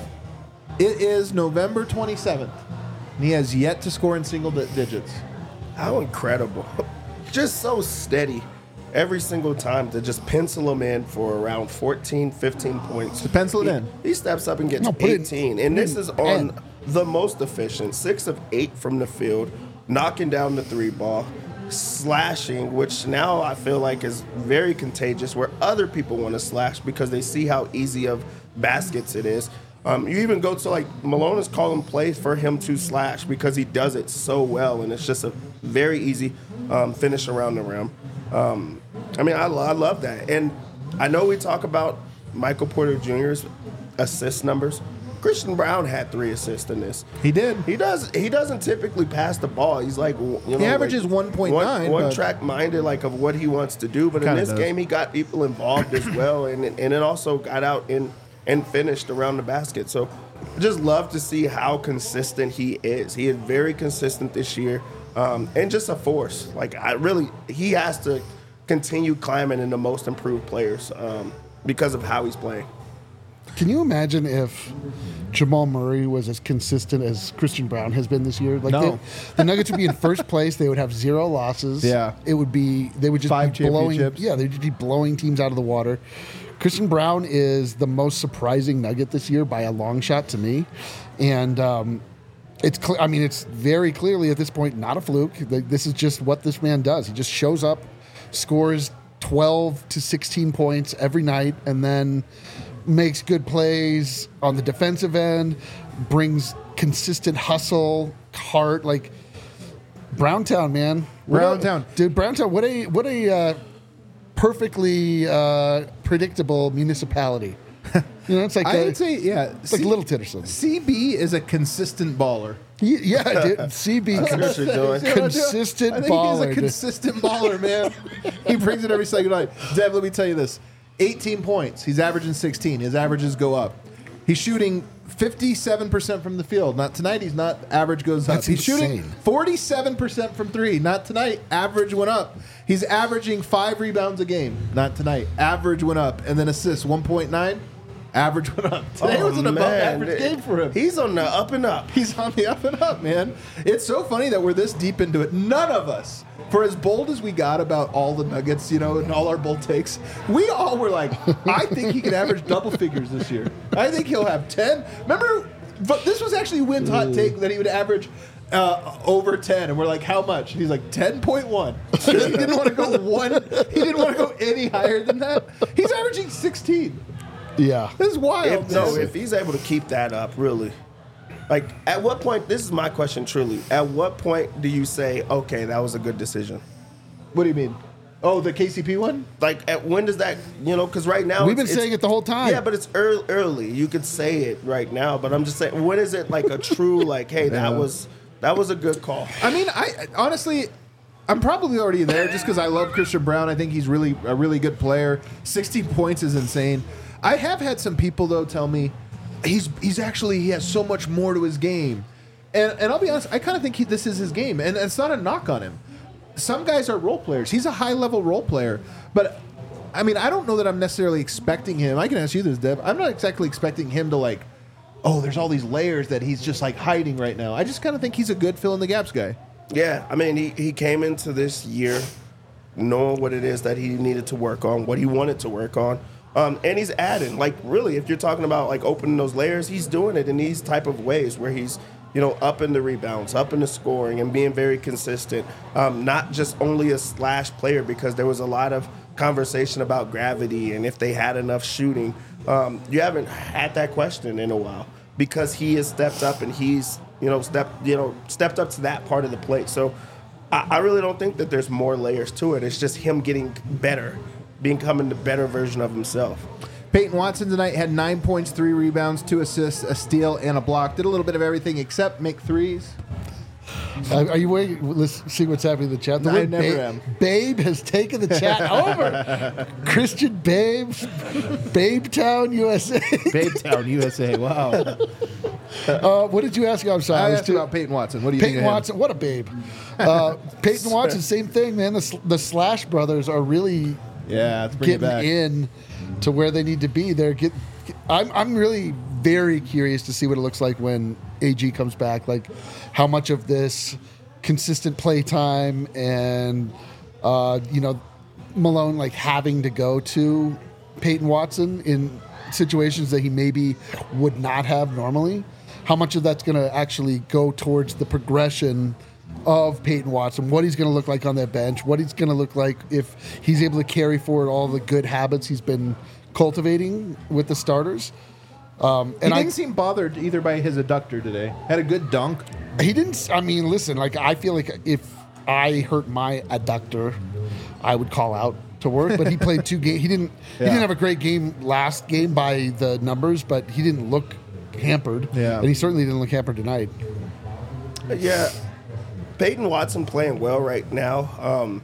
it is November twenty-seventh. And he has yet to score in single di- digits. How incredible. Just so steady every single time to just pencil him in for around fourteen, fifteen points. To pencil it he, in. He steps up and gets No, put it- eighteen. put and it this in is on ten. the most efficient. Six of eight from the field, knocking down the three ball, slashing, which now I feel like is very contagious where other people want to slash because they see how easy of baskets it is. Um, you even go to like Malone is calling plays for him to slash because he does it so well, and it's just a very easy um, finish around the rim. Um, I mean, I, lo- I love that, and I know we talk about Michael Porter Junior's assist numbers. Christian Brown had three assists in this. He did. He does. He doesn't typically pass the ball. He's like, you know, He averages like one point nine, One, but- one track minded, like of what he wants to do. But in Kinda this does. game, he got people involved as well, and and it also got out and and finished around the basket. So, I just love to see how consistent he is. He is very consistent this year, um, and just a force. Like I really, he has to continue climbing in the most improved players um, because of how he's playing. Can you imagine if Jamal Murray was as consistent as Christian Brown has been this year? Like No. they, the Nuggets would be in first place. They would have zero losses. Yeah. It would be they would just Five be blowing. championships. Yeah, they'd just be blowing teams out of the water. Christian Brown is the most surprising Nugget this year by a long shot to me, and um, it's. Cl- I mean, it's very clearly at this point not a fluke. Like, this is just what this man does. He just shows up, scores twelve to sixteen points every night, and then makes good plays on the defensive end, brings consistent hustle, heart. Like Browntown, man. What a- Browntown. dude. Browntown. What a what a uh, perfectly uh, predictable municipality. You know, it's like I the- would say, yeah. It's like Little Titterson. C B is a consistent baller. He- Yeah, dude. C B That's what you're doing. See what I'm doing? Consistent I think baller, he's a dude. consistent baller, man. He brings it every second night. Dev, let me tell you this: eighteen points. He's averaging sixteen. His averages go up. He's shooting fifty-seven percent from the field. Not tonight. He's not. Average goes up. That's He's shooting insane. forty-seven percent from three. Not tonight. Average went up. He's averaging five rebounds a game. Not tonight. Average went up. And then assists one point nine. Average went up. Today Oh, was an above man. average game for him. He's on the up and up. He's on the up and up, man. It's so funny that we're this deep into it. None of us, for as bold as we got about all the Nuggets, you know, and all our bold takes, we all were like, I think he can average double figures this year. I think he'll have ten. Remember, but this was actually Wynn's hot take that he would average uh, over ten. And we're like, how much? And he's like, ten point one. he didn't want to go one. He didn't want to go any higher than that. He's averaging sixteen. Yeah. This is wild. If, no, man. if he's able to keep that up, really. Like, at what point, this is my question truly. At what point do you say, okay, that was a good decision? What do you mean? Oh, the K C P one? Like, at when does that, you know, because right now. We've it's- been saying it's- it the whole time. Yeah, but it's early, early. You could say it right now, but I'm just saying, when is it like a true, like, hey, that Yeah. was that was a good call? I mean, I honestly, I'm probably already there just because I love Christian Brown. I think he's really a really good player. sixteen points is insane. I have had some people though tell me he's he's actually he has so much more to his game, and and I'll be honest, I kind of think he, this is his game, and it's not a knock on him. Some guys are role players. He's a high level role player, but I mean, I don't know that I'm necessarily expecting him. I can ask you this, Deb. I'm not exactly expecting him to like, oh, there's all these layers that he's just like hiding right now. I just kind of think he's a good fill in the gaps guy. Yeah, I mean, he, he came into this year knowing what it is that he needed to work on, what he wanted to work on. Um, and he's adding, like, really, if you're talking about, like, opening those layers, he's doing it in these type of ways where he's, you know, up in the rebounds, up in the scoring, and being very consistent. Um, not just only a slash player, because there was a lot of conversation about gravity and if they had enough shooting. Um, you haven't had that question in a while because he has stepped up and he's, you know, stepped, you know, stepped up to that part of the plate. So I, I really don't think that there's more layers to it. It's just him getting better, becoming the better version of himself. Peyton Watson tonight had nine points, three rebounds, two assists, a steal, and a block. Did a little bit of everything except make threes. Uh, are you waiting? Let's see what's happening in the chat. The I word never Babe, am. Babe has taken the chat over. Christian Babe, Babe Town, U S A. Babe Town, U S A. Wow. Uh, what did you ask? I'm sorry. I I was asked too- about Peyton Watson. What do you Peyton think of him? Watson, what a babe. Uh, Peyton Watson, same thing, man. The, Sl- the Slash brothers are really Yeah, let's bring it getting back. in to where they need to be. They're get, I'm I'm really very curious to see what it looks like when A G comes back. Like how much of this consistent play time and uh, you know Malone like having to go to Peyton Watson in situations that he maybe would not have normally. How much of that's going to actually go towards the progression of Peyton Watson, what he's going to look like on that bench, what he's going to look like if he's able to carry forward all the good habits he's been cultivating with the starters. Um, He and I, didn't seem bothered either by his adductor today. Had a good dunk. he didn't. I mean, listen, like I feel like if I hurt my adductor, I would call out to work. But he played two games. He didn't. He Yeah. didn't have a great game last game by the numbers, but he didn't look hampered. Yeah. and he certainly didn't look hampered tonight. Yeah, Peyton Watson playing well right now. Um,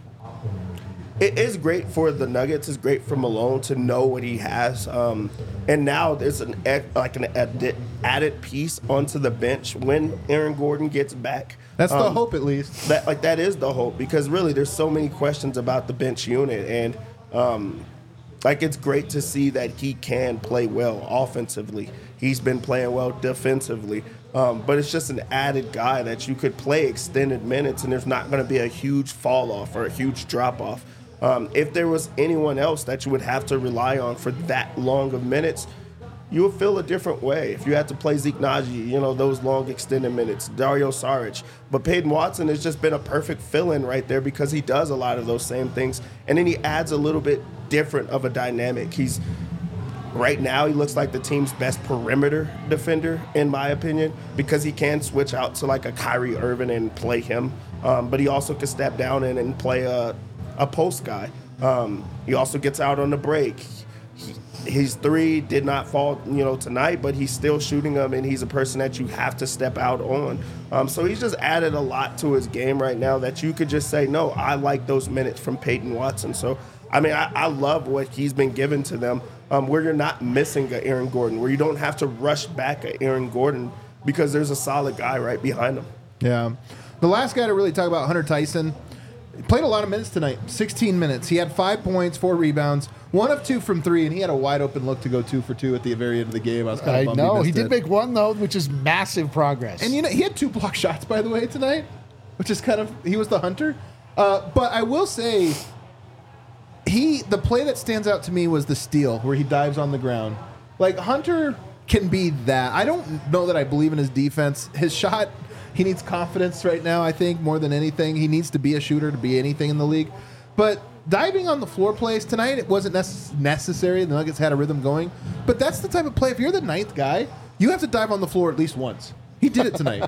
it is great for the Nuggets. It's great for Malone to know what he has. Um, and now there's an ec- like an added, added piece onto the bench when Aaron Gordon gets back. That's the Um, hope, at least. That like that is the hope because really there's so many questions about the bench unit and um, like it's great to see that he can play well offensively. He's been playing well defensively, um, but it's just an added guy that you could play extended minutes and there's not going to be a huge fall off or a huge drop off. Um, if there was anyone else that you would have to rely on for that long of minutes, you would feel a different way. If you had to play Zeke Naji, you know, those long extended minutes, Dario Saric. But Peyton Watson has just been a perfect fill-in right there because he does a lot of those same things. And then he adds a little bit different of a dynamic. He's right now he looks like the team's best perimeter defender, in my opinion, because he can switch out to like a Kyrie Irving and play him. Um, but he also can step down in and play a, a post guy. Um, he also gets out on the break. He, his three did not fall, you know, tonight, but he's still shooting them, and he's a person that you have to step out on. Um, so he's just added a lot to his game right now that you could just say, no, I like those minutes from Peyton Watson. So, I mean, I, I love what he's been given to them, um, where you're not missing a Aaron Gordon, where you don't have to rush back a Aaron Gordon because there's a solid guy right behind him. Yeah. The last guy to really talk about, Hunter Tyson, he played a lot of minutes tonight, sixteen minutes. He had five points, four rebounds, one of two from three, and he had a wide open look to go two for two at the very end of the game. I was kind of I bummed know. he, He missed did it. make one, though, which is massive progress. And you know, he had two block shots, by the way, tonight, which is kind of, he was the hunter. Uh, but I will say, he the play that stands out to me was the steal where he dives on the ground. Like, Hunter can be that. I don't know that I believe in his defense. His shot, he needs confidence right now, I think, more than anything. He needs to be a shooter to be anything in the league. But diving on the floor plays tonight, it wasn't necess- necessary. The Nuggets had a rhythm going. But that's the type of play, if you're the ninth guy, you have to dive on the floor at least once. He did it tonight.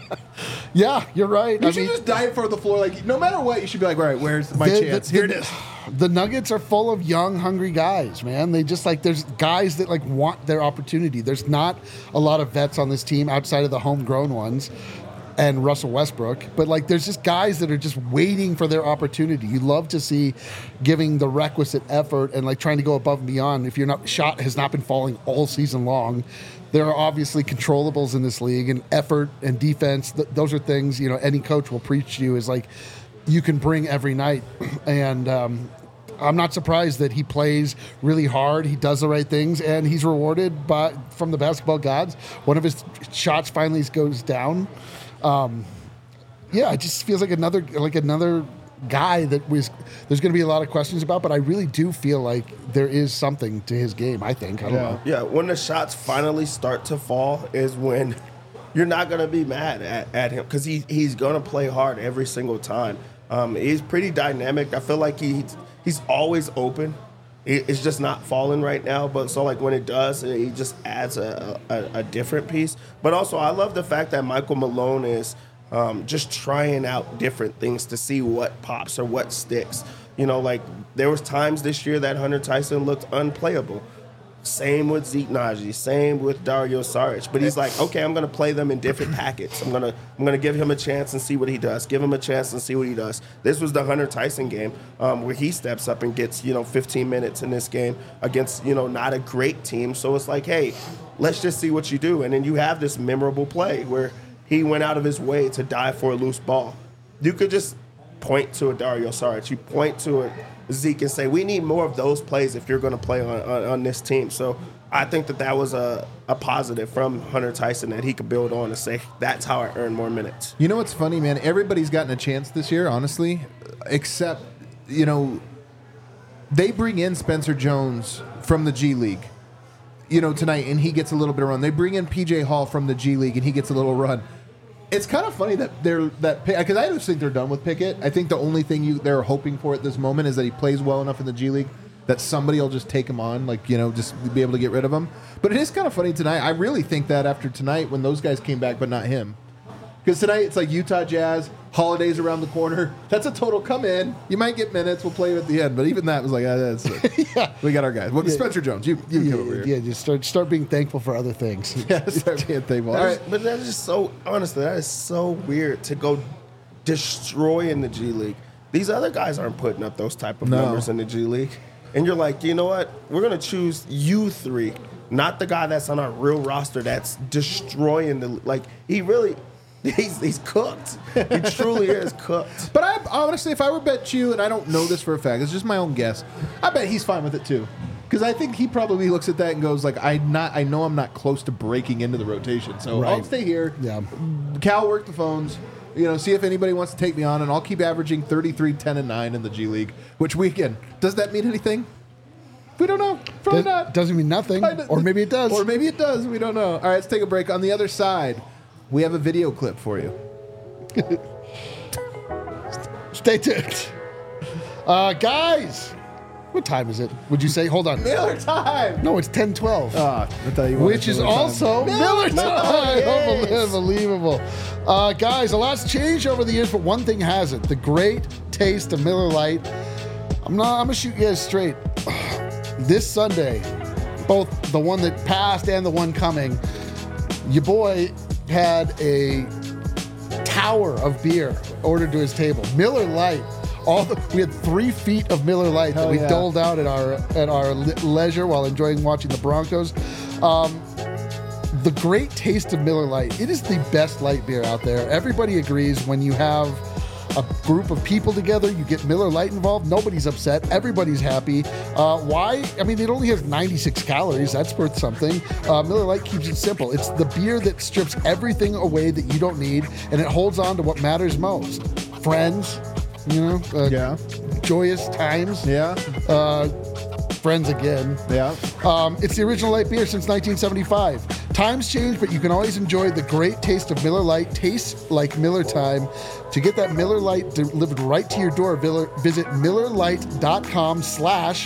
yeah, you're right. You I should mean, just dive for the floor. Like, no matter what, you should be like, all right, where's my the- chance? the- Here the- it is. The Nuggets are full of young, hungry guys, man. They just like there's guys that like want their opportunity. There's not a lot of vets on this team outside of the homegrown ones and Russell Westbrook, but like there's just guys that are just waiting for their opportunity. You love to see giving the requisite effort and like trying to go above and beyond. If your not shot has not been falling all season long, there are obviously controllables in this league, and effort and defense. Th- those are things, you know, any coach will preach to you is like you can bring every night. And um, I'm not surprised that he plays really hard. He does the right things, and he's rewarded by from the basketball gods. One of his shots finally goes down. Um, yeah, it just feels like another like another guy that was there's going to be a lot of questions about, but I really do feel like there is something to his game. I think I don't Yeah. know. Yeah, when the shots finally start to fall is when you're not going to be mad at, at him because he, he's going to play hard every single time. Um, he's pretty dynamic. I feel like he's, he's always open. It- It's just not falling right now, but so like when it does, he just adds a, a, a different piece. But also, I love the fact that Michael Malone is um, just trying out different things to see what pops or what sticks. You know, like there was times this year that Hunter Tyson looked unplayable. Same with Zeke Naji, same with Dario Saric. But he's like, okay, I'm going to play them in different packets. I'm going to I'm going to give him a chance and see what he does. Give him a chance and see what he does. This was the Hunter Tyson game um, where he steps up and gets, you know, fifteen minutes in this game against, you know, not a great team. So it's like, hey, let's just see what you do. And then you have this memorable play where he went out of his way to dive for a loose ball. You could just point to a Dario Saric. You point to a Zeke and say, we need more of those plays if you're going to play on, on, on this team. So I think that that was a, a positive from Hunter Tyson that he could build on and say, that's how I earn more minutes. You know what's funny, man? Everybody's gotten a chance this year, honestly, except, you know, they bring in Spencer Jones from the G League, you know, tonight, and he gets a little bit of run. They bring in P J Hall from the G League, and he gets a little run. It's kind of funny that they're that because I just think they're done with Pickett. I think the only thing you they're hoping for at this moment is that he plays well enough in the G League that somebody will just take him on, like, you know, just be able to get rid of him. But it is kind of funny tonight. I really think that after tonight when those guys came back, but not him. Because tonight it's like Utah Jazz, holidays around the corner. That's a total come in. You might get minutes. We'll play you at the end. But even that was like, ah, that's it. Yeah. We got our guys. Well, Yeah. Spencer Jones, you, you Yeah, come over here. yeah, just start start being thankful for other things. Yeah, start being thankful. All That right. is- but that is just so, honestly, that is so weird to go destroy in the G League. These other guys aren't putting up those type of No. numbers in the G League. And you're like, you know what? We're going to choose you three, not the guy that's on our real roster that's destroying the, like, he really, he's, he's cooked. He truly is cooked. But I honestly, if I were bet you, and I don't know this for a fact, it's just my own guess. I bet he's fine with it too, because I think he probably looks at that and goes like, "I not, I know I'm not close to breaking into the rotation, so I'll Right. stay here." Yeah. Cal, work the phones. You know, see if anybody wants to take me on, and I'll keep averaging thirty-three, ten, and nine in the G League. Which weekend does that mean anything? We don't know. Probably Does, not. doesn't mean nothing, I- or maybe it does. Or maybe it does. We don't know. All right, let's take a break. On the other side, we have a video clip for you. Stay tuned. Uh, guys, what time is it? Would you say? Hold on. Miller time. No, it's ten twelve. Ah, I thought you wanted Which is Miller time. also Miller time. Yes. Unbelievable. Uh, guys, a lot's changed over the years, but one thing hasn't. The great taste of Miller Lite. I'm not. I'm gonna shoot you guys straight. This Sunday, both the one that passed and the one coming, your boy had a tower of beer ordered to his table. Miller Lite. All the, we had three feet of Miller Lite Hell that we yeah. doled out at our at our le- leisure while enjoying watching the Broncos. Um, the great taste of Miller Lite. It is the best light beer out there. Everybody agrees when you have a group of people together, you get Miller Lite involved, nobody's upset, everybody's happy. Uh, why? I mean, it only has ninety-six calories. That's worth something. Uh, Miller Lite keeps it simple. It's the beer that strips everything away that you don't need, and it holds on to what matters most. Friends, you know, uh, Yeah. joyous times, Yeah. uh, friends again. Yeah. Um, it's the original light beer since nineteen seventy-five. Times change, but you can always enjoy the great taste of Miller Lite. Tastes like Miller time. To get that Miller Lite delivered right to your door, visit millerlite.com slash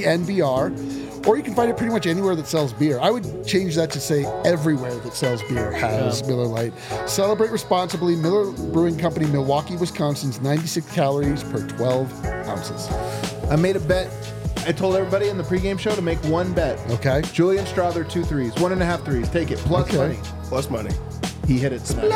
DNVR, or you can find it pretty much anywhere that sells beer. I would change that to say everywhere that sells beer has Yeah. Miller Lite. Celebrate responsibly. Miller Brewing Company, Milwaukee, Wisconsin's ninety-six calories per twelve ounces. I made a bet. I told everybody in the pregame show to make one bet. Okay. Julian Strother, two threes, one and a half threes. Take it. Plus Okay. money. Plus money. He hit it tonight.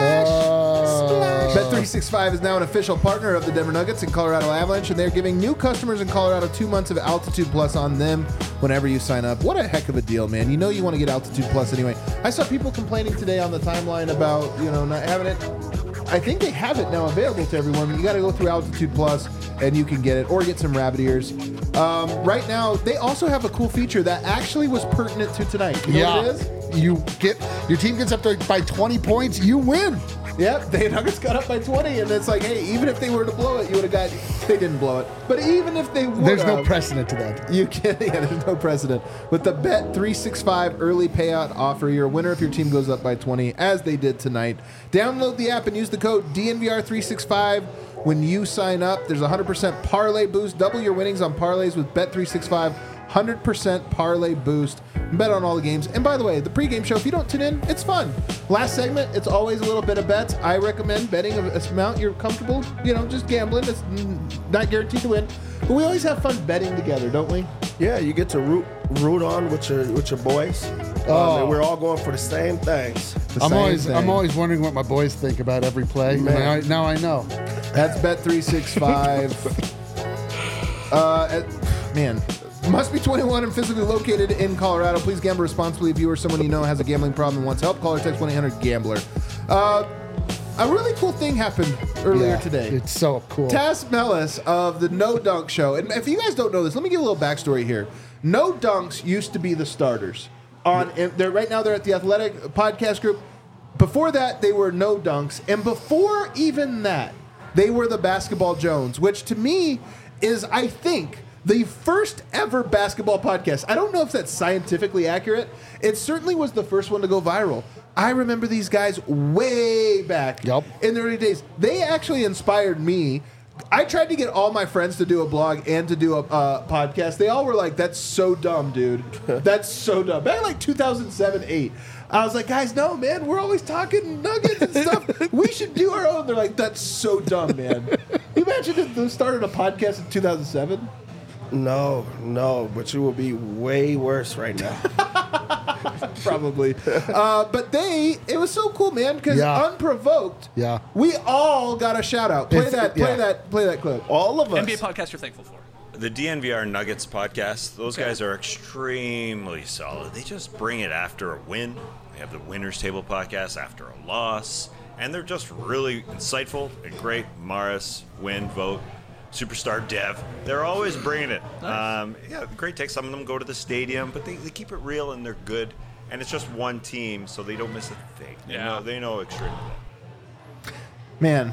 Uh, Bet three sixty-five is now an official partner of the Denver Nuggets and Colorado Avalanche, and they're giving new customers in Colorado two months of Altitude Plus on them whenever you sign up. What a heck of a deal, man. You know you want to get Altitude Plus anyway. I saw people complaining today on the timeline about, you know, not having it. I think they have it now available to everyone. You got to go through Altitude Plus and you can get it, or get some rabbit ears. Um, right now, they also have a cool feature that actually was pertinent to tonight. You know yeah. what it is? You get your team gets up to by twenty points, you win. Yep, the Nuggets got up by twenty, and it's like, hey, even if they were to blow it, you would have got. They didn't blow it, but even if they would, There's no precedent to that. You can, yeah, there's no precedent. With the Bet three sixty-five early payout offer, you're a winner if your team goes up by twenty, as they did tonight. Download the app and use the code D N V R three sixty-five when you sign up. There's a one hundred percent parlay boost. Double your winnings on parlays with Bet three sixty-five. one hundred percent parlay boost. Bet on all the games. And by the way, the pregame show, if you don't tune in, it's fun. Last segment, it's always a little bit of bets. I recommend betting a, a amount you're comfortable, you know, just gambling. It's not guaranteed to win. But we always have fun betting together, don't we? Yeah, you get to root root on with your with your boys. Um, Oh. and we're all going for the same things. The I'm same always thing. I'm always wondering what my boys think about every play. And Man. I, now I know. That's Bet three sixty-five. uh, at, man, must be twenty-one and physically located in Colorado. Please gamble responsibly. If you or someone you know has a gambling problem and wants help, call or text one eight hundred gambler. Uh, a really cool thing happened earlier Yeah, today. It's so cool. Taz Mellis of the No Dunk Show. And if you guys don't know this, let me give a little backstory here. No Dunks used to be the starters. On and they're right now they're at the Athletic Podcast Group. Before that, they were No Dunks. And before even that, they were the Basketball Jones, which to me is, I think, the first ever basketball podcast. I don't know if that's scientifically accurate. It certainly was the first one to go viral. I remember these guys way back Yup. in the early days. They actually inspired me. I tried to get all my friends to do a blog and to do a uh, podcast. They all were like, that's so dumb, dude. That's so dumb. Back in like two thousand seven, eight. I was like, guys, no, man, we're always talking nuggets and stuff. We should do our own. They're like, that's so dumb, man. You imagine if they started a podcast in two thousand seven? No, no, but you will be way worse right now. Probably. uh, but they, it was so cool, man, because Yeah. unprovoked, Yeah. we all got a shout out. Play It's- that, play yeah. that, play that clip. All of us. N B A podcast you're thankful for. The D N V R Nuggets podcast, those guys are extremely solid. They just bring it after a win. They have the Winners Table podcast after a loss. And they're just really insightful and great. Morris, Win, Vote, Superstar Dev. They're always bringing it. Um, yeah, great take. Some of them go to the stadium, but they, they keep it real and they're good. And it's just one team, so they don't miss a thing. They Yeah. know, they know extremely well. Man.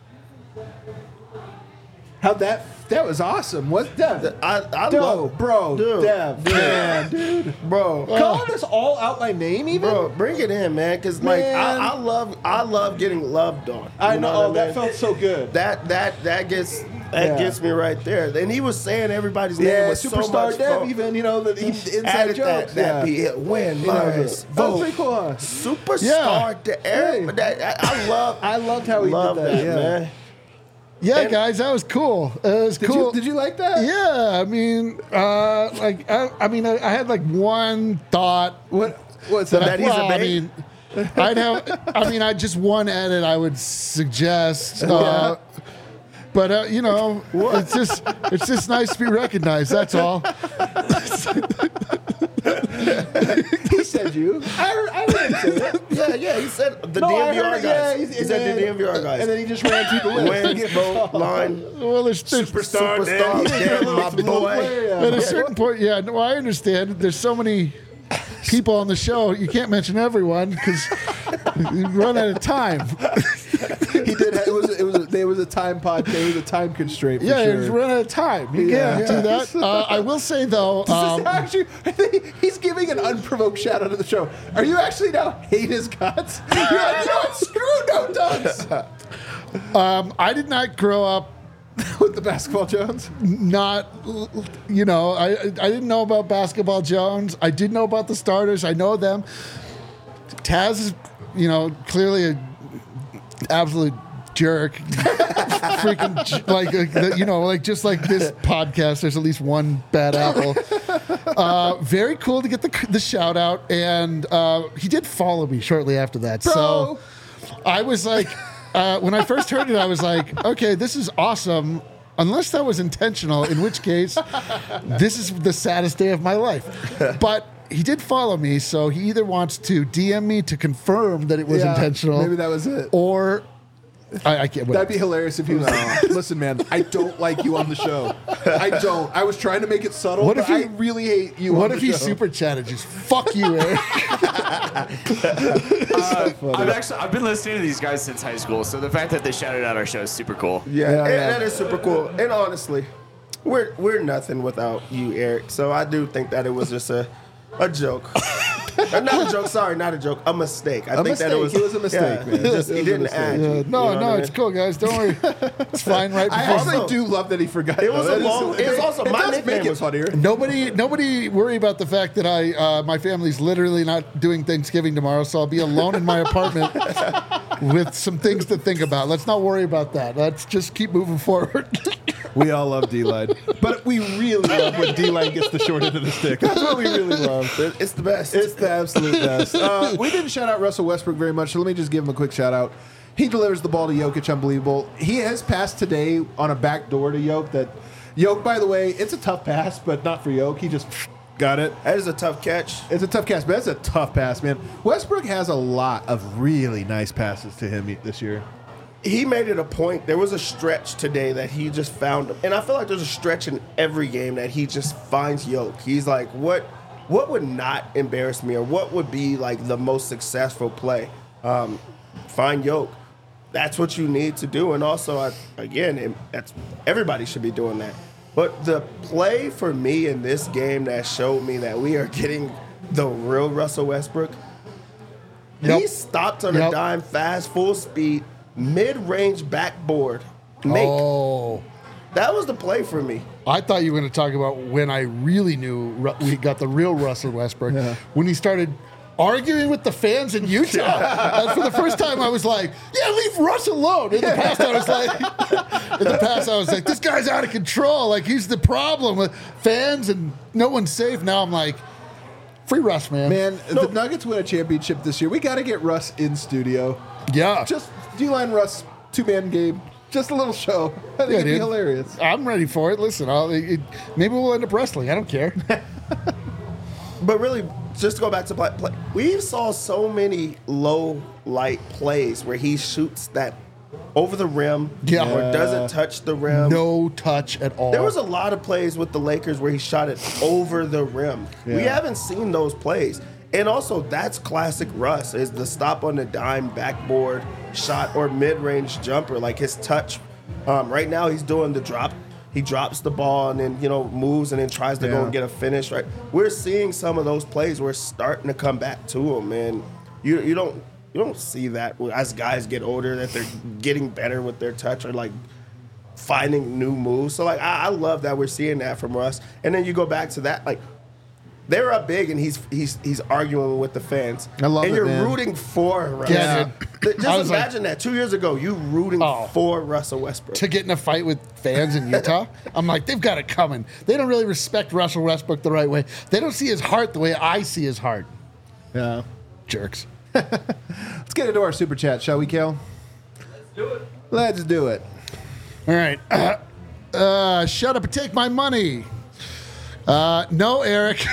How that, that was awesome. What's Dev? I, I Dude, love, bro, dude, Dev, dude, man, dude. bro, Calling us all out by name, even? bro, bring it in, man. Because like Man. I, I love, I love getting loved on. I You know, what oh, that mean? felt so good. That that that gets that Yeah. gets me right there. And he was saying everybody's name Yeah, with so Superstar much Dev, fun. even, you know, the the inside Added jokes. that, that yeah. be it. Win, You know, Morris, that was Vote, pretty cool, huh? Superstar Yeah. Dev. That, I, I love. I loved how he love did that, yeah. man. Yeah, And- guys, that was cool. It was Did cool. you did you like that? Yeah, I mean, uh, like, I, I mean, I, I had like one thought What what's that, that? I, That he's a well, I bait? mean, I'd have, I mean, I just one edit I would suggest. Uh, But uh, you know, it's just it's just nice to be recognized. That's all. He said you. I heard, I heard him say that. Yeah, yeah. He said the No, I D M V R heard it, guys. yeah, he he's- said and the then- D M V R guys. And then he just ran through the list. Win, vote, line, Well, there's, there's superstar, Dan. Dan, Dan, my boy. At a certain point, yeah, no, I understand. There's so many people on the show, you can't mention everyone because you run out of time. He did. Have, it was. It was. A, there was a time pod. There was a time constraint. For Yeah, sure. you run out of time. You Yeah. can't do that. Uh, I will say though, This is um, actually, I think he's giving an unprovoked shout out to the show. Are you actually now hate his guts? You're like, you know what? Screw No Dunks um, I did not grow up with the Basketball Jones. not, you know, I I didn't know about Basketball Jones. I did know about the starters. I know them. Taz is, you know, clearly a absolute jerk. Freaking j- like uh, you know, like just like this podcast, there's at least one bad apple. Uh, very cool to get the the shout out, and uh, he did follow me shortly after that. So I was like, uh, when I first heard it, I was like, okay, this is awesome. Unless that was intentional, in which case, this is the saddest day of my life. But he did follow me, so he either wants to D M me to confirm that it was Yeah, intentional, maybe that was it. or I, I can't. That'd be hilarious if he was like, listen, man, I don't like you on the show. I don't. I was trying to make it subtle, What but if he- I really hate you What on if the he show. super chatted just fuck you, Eric? I've actually I've been listening to these guys since high school, so the fact that they shouted out our show is super cool. Yeah, Yeah, and yeah. that is super cool. And honestly, we're we're nothing without you, Eric. So I do think that it was just a a joke. Uh, not a joke. Sorry, not a joke. A mistake. I A think that it was. mistake. It was a mistake, yeah, man. Just, It he was a didn't mistake. add. Yeah, you no, know no, what I it's mean? cool, guys. Don't worry. It's fine. Right I before. actually Also- do love that he forgot. It was though. a That is- long- it was also it my does nickname make it was- funnier. Nobody, nobody worry about the fact that I, uh, my family's literally not doing Thanksgiving tomorrow, so I'll be alone in my apartment with some things to think about. Let's not worry about that. Let's just keep moving forward. We all love D-Line. But we really love when D-Line gets the short end of the stick. That's what we really love. It's the best. It's the absolute best. Uh, we didn't shout out Russell Westbrook very much, so let me just give him a quick shout out. He delivers the ball to Jokic, unbelievable. He has passed today on a back door to Jokic. That Jokic, by the way, it's a tough pass, but not for Jokic. He just got it. that is a tough catch. It's a tough pass, but that's a tough pass, man. Westbrook has a lot of really nice passes to him this year. He made it a point. There was a stretch today that he just found him. And I feel like there's a stretch in every game that he just finds Yoke. He's like, what what would not embarrass me, or what would be like the most successful play? Um, find Yoke. That's what you need to do. And also, I, again, it, that's everybody should be doing that. But the play for me in this game that showed me that we are getting the real Russell Westbrook, Yep. he stopped on Yep. a dime, fast, full speed, mid-range backboard make. Oh, That was the play for me. I thought you were going to talk about when I really knew Ru- we got the real Russell Westbrook when he started arguing with the fans in Utah. And for the first time, I was like, "Yeah, leave Russ alone." In the past, I was like, "In the past, I was like, this guy's out of control. Like he's the problem with fans and no one's safe." Now I'm like, "Free Russ, man." Man, the Nuggets win a championship this year. We got to get Russ in studio. Yeah, Just D-Line Russ, two-man game. Just a little show. I think Yeah, it'd be dude. hilarious. I'm ready for it. Listen, I'll, it, maybe we'll end up wrestling. I don't care. But really, just to go back to play, play we saw so many low light plays where he shoots that over the rim Yeah. or doesn't touch the rim. No touch at all. There was a lot of plays with the Lakers where he shot it over the rim. We Yeah. haven't seen those plays. And also, that's classic Russ, is the stop on the dime backboard shot or mid-range jumper. Like his touch, um, right now he's doing the drop. He drops the ball and then, you know, moves and then tries to go Yeah. and get a finish, right? We're seeing some of those plays where it's starting to come back to him, and you you don't you don't see that as guys get older, that they're getting better with their touch or like finding new moves. So like I, I love that we're seeing that from Russ. And then you go back to that, like they're up big and he's he's he's arguing with the fans. I love and it, you're man. rooting for Russ. Yeah, dude. Th- Just I was like- imagine that. Two years ago, you rooting Oh. for Russell Westbrook. to get in a fight with fans in Utah. I'm like, they've got it coming. They don't really respect Russell Westbrook the right way. They don't see his heart the way I see his heart. Yeah. Jerks. Let's get into our super chat, shall we, Kale? Let's do it. Let's do it. All right. Uh, uh, shut up and take my money. Uh, no, Eric.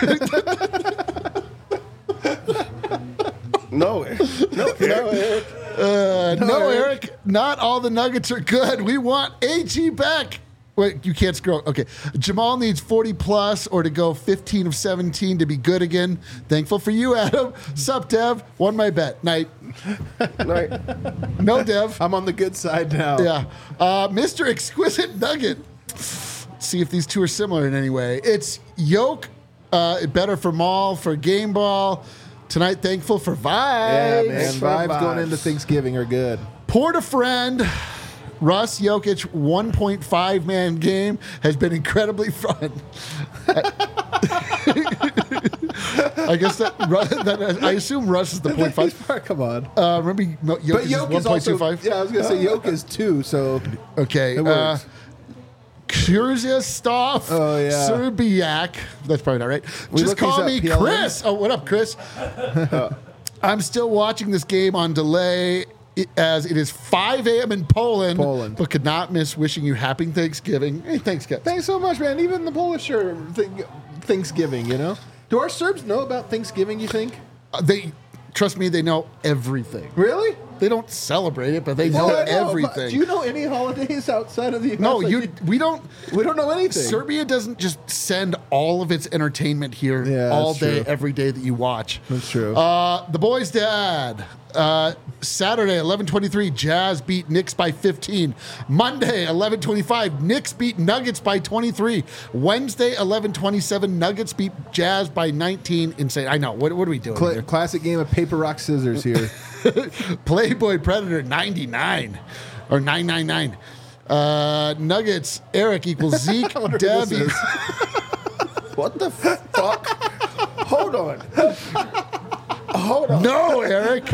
No, no, no, Eric. Uh, no, Eric. Eric. Not all the Nuggets are good. We want A G back. Wait, you can't scroll. Okay. Jamal needs forty plus or to go fifteen of seventeen to be good again. Thankful for you, Adam. Sup, Dev? Won my bet. Night. Right. No, Dev. I'm on the good side now. Yeah. Uh, Mister Exquisite Nugget. See if these two are similar in any way. It's Yoke, uh, better for Maul, for Game Ball. Tonight, thankful for Yeah, vibes. man. for Vibes going vibes. into Thanksgiving are good. Port a friend. Russ Jokic one point five man game has been incredibly fun. I guess that, Ru- that I assume Russ is the point He's five. far- Come on. Uh, remember, Jokic But is Yoke one is point two also. five. Yeah, I was gonna say Yoke is two. So Okay. It Uh, works. Kurzestov Oh, yeah. Serbiak. That's probably not right. We Just look these call up, me P L N? Chris. Oh, what up, Chris? I'm still watching this game on delay i- as it is five a.m. in Poland, Poland. but could not miss wishing you happy Thanksgiving. Hey, thanks, guys. thanks so much, man. Even the Polish are th- Thanksgiving. You know. Do our Serbs know about Thanksgiving? You think? Uh, they trust me, they know everything. Really? They don't celebrate it, but they know Well, I know, but everything. Do you know any holidays outside of the U S? no, Like, you. We don't. We don't know anything. Serbia doesn't just send all of its entertainment here Yeah, all that's day, true. every day that you watch. That's true. Uh, the boys' dad. Uh, Saturday, eleven twenty-three, Jazz beat Knicks by fifteen. Monday, eleven twenty-five, Knicks beat Nuggets by twenty-three. Wednesday, eleven twenty-seven, Nuggets beat Jazz by nineteen. Insane. I know. What, what are we doing Cla- here? classic game of paper, rock, scissors here. Playboy Predator ninety-nine or nine nine nine. Uh, Nuggets, Eric equals Zeke, wonder who this Debbie. is. What the fuck? Hold on. Hold on. No, Eric.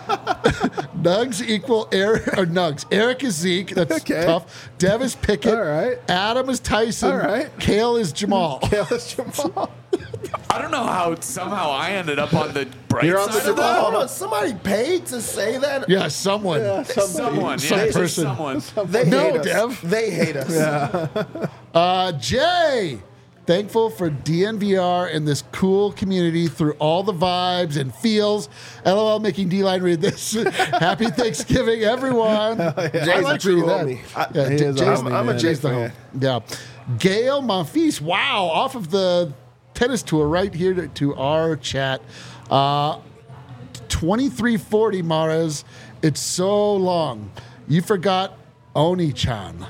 Nugs equal Eric or Nugs. Eric is Zeke. That's Okay. tough. Dev is Pickett. All right. Adam is Tyson. All right. Kale is Jamal. Kale's Jamal. I don't know how somehow I ended up on the bright You're on side the of that. Hold on. Somebody paid to say that? Yeah, someone. Someone, Some yeah, just person. someone. They No, hate us. Dev. They hate us. Uh, Jay. Thankful for D N V R and this cool community through all the vibes and feels. LOL making D-Line read this. Happy Thanksgiving, everyone. I Jay's a like true reading that. homie. I- Yeah, He J- is a Jay's- homie, I'm a man. Jay Jay's the fan. home. Yeah. Gail Monfils, wow, off of the tennis tour right here to, to our chat. Uh, twenty-three forty, Maras. It's so long. You forgot Oni-chan.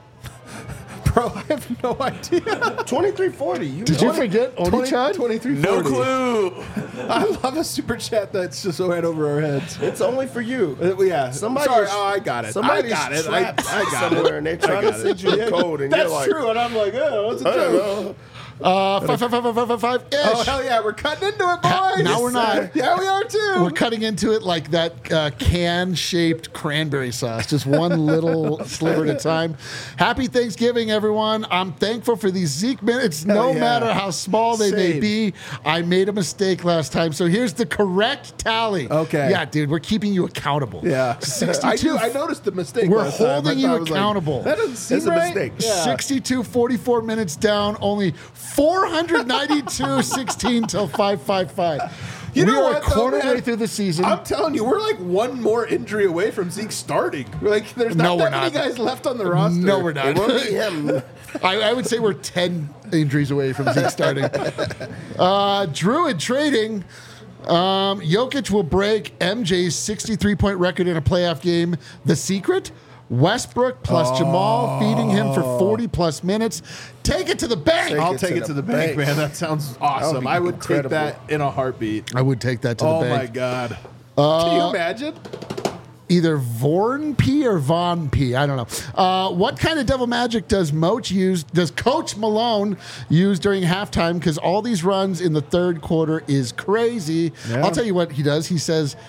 Bro, I have no idea. twenty-three forty. You Did you know it. forget Oni-chan? twenty-three No forty. clue. I love a super chat that's just right over our heads. It's only for you. Uh, yeah. Somebody Sorry. is- Oh, I got it. I Somebody's got it. I, trapped I got somewhere, it. and they're trying I to got send it. you a Yeah. code, and That's you're like, true, and I'm like, oh, what's a I don't joke? know. Uh, five, five, five, five, five, five, five ish. Oh, hell yeah, we're cutting into it, boys. Now we're not. Yeah, we are too. We're cutting into it like that uh, can-shaped cranberry sauce, just one little sliver at a time. Happy Thanksgiving, everyone. I'm thankful for these Zeke minutes, no Hell yeah. matter how small they may Same. be. I made a mistake last time, so here's the correct tally. Okay. Yeah, dude, we're keeping you accountable. Yeah. sixty-two. I do. I noticed the mistake. We're last time. I holding thought you I was like, accountable. that doesn't seem It's a right. mistake. Yeah. sixty-two forty-four minutes down, only four ninety-two sixteen till five fifty-five. You we know are what, a quarter though, man? way through the season. I'm telling you, we're like one more injury away from Zeke starting. Like, there's not No, that we're many not. guys left on the roster. No, we're not. It won't be him. I, I would say we're ten injuries away from Zeke starting. Uh, Druid trading. Um, Jokic will break M J's sixty-three point record in a playoff game. The secret? Westbrook plus Jamal feeding him for forty plus minutes. Take it to the bank. Take I'll it take to it the to the bank, bank. man. That sounds would awesome. be I would incredible. take that in a heartbeat. I would take that to Oh the my bank. god. Can you imagine? Either Vorn P or Von P. I don't know. Uh, what kind of devil magic does Moach use? Does Coach Malone use during halftime? Because all these runs in the third quarter is crazy. Yeah. I'll tell you what he does. He says,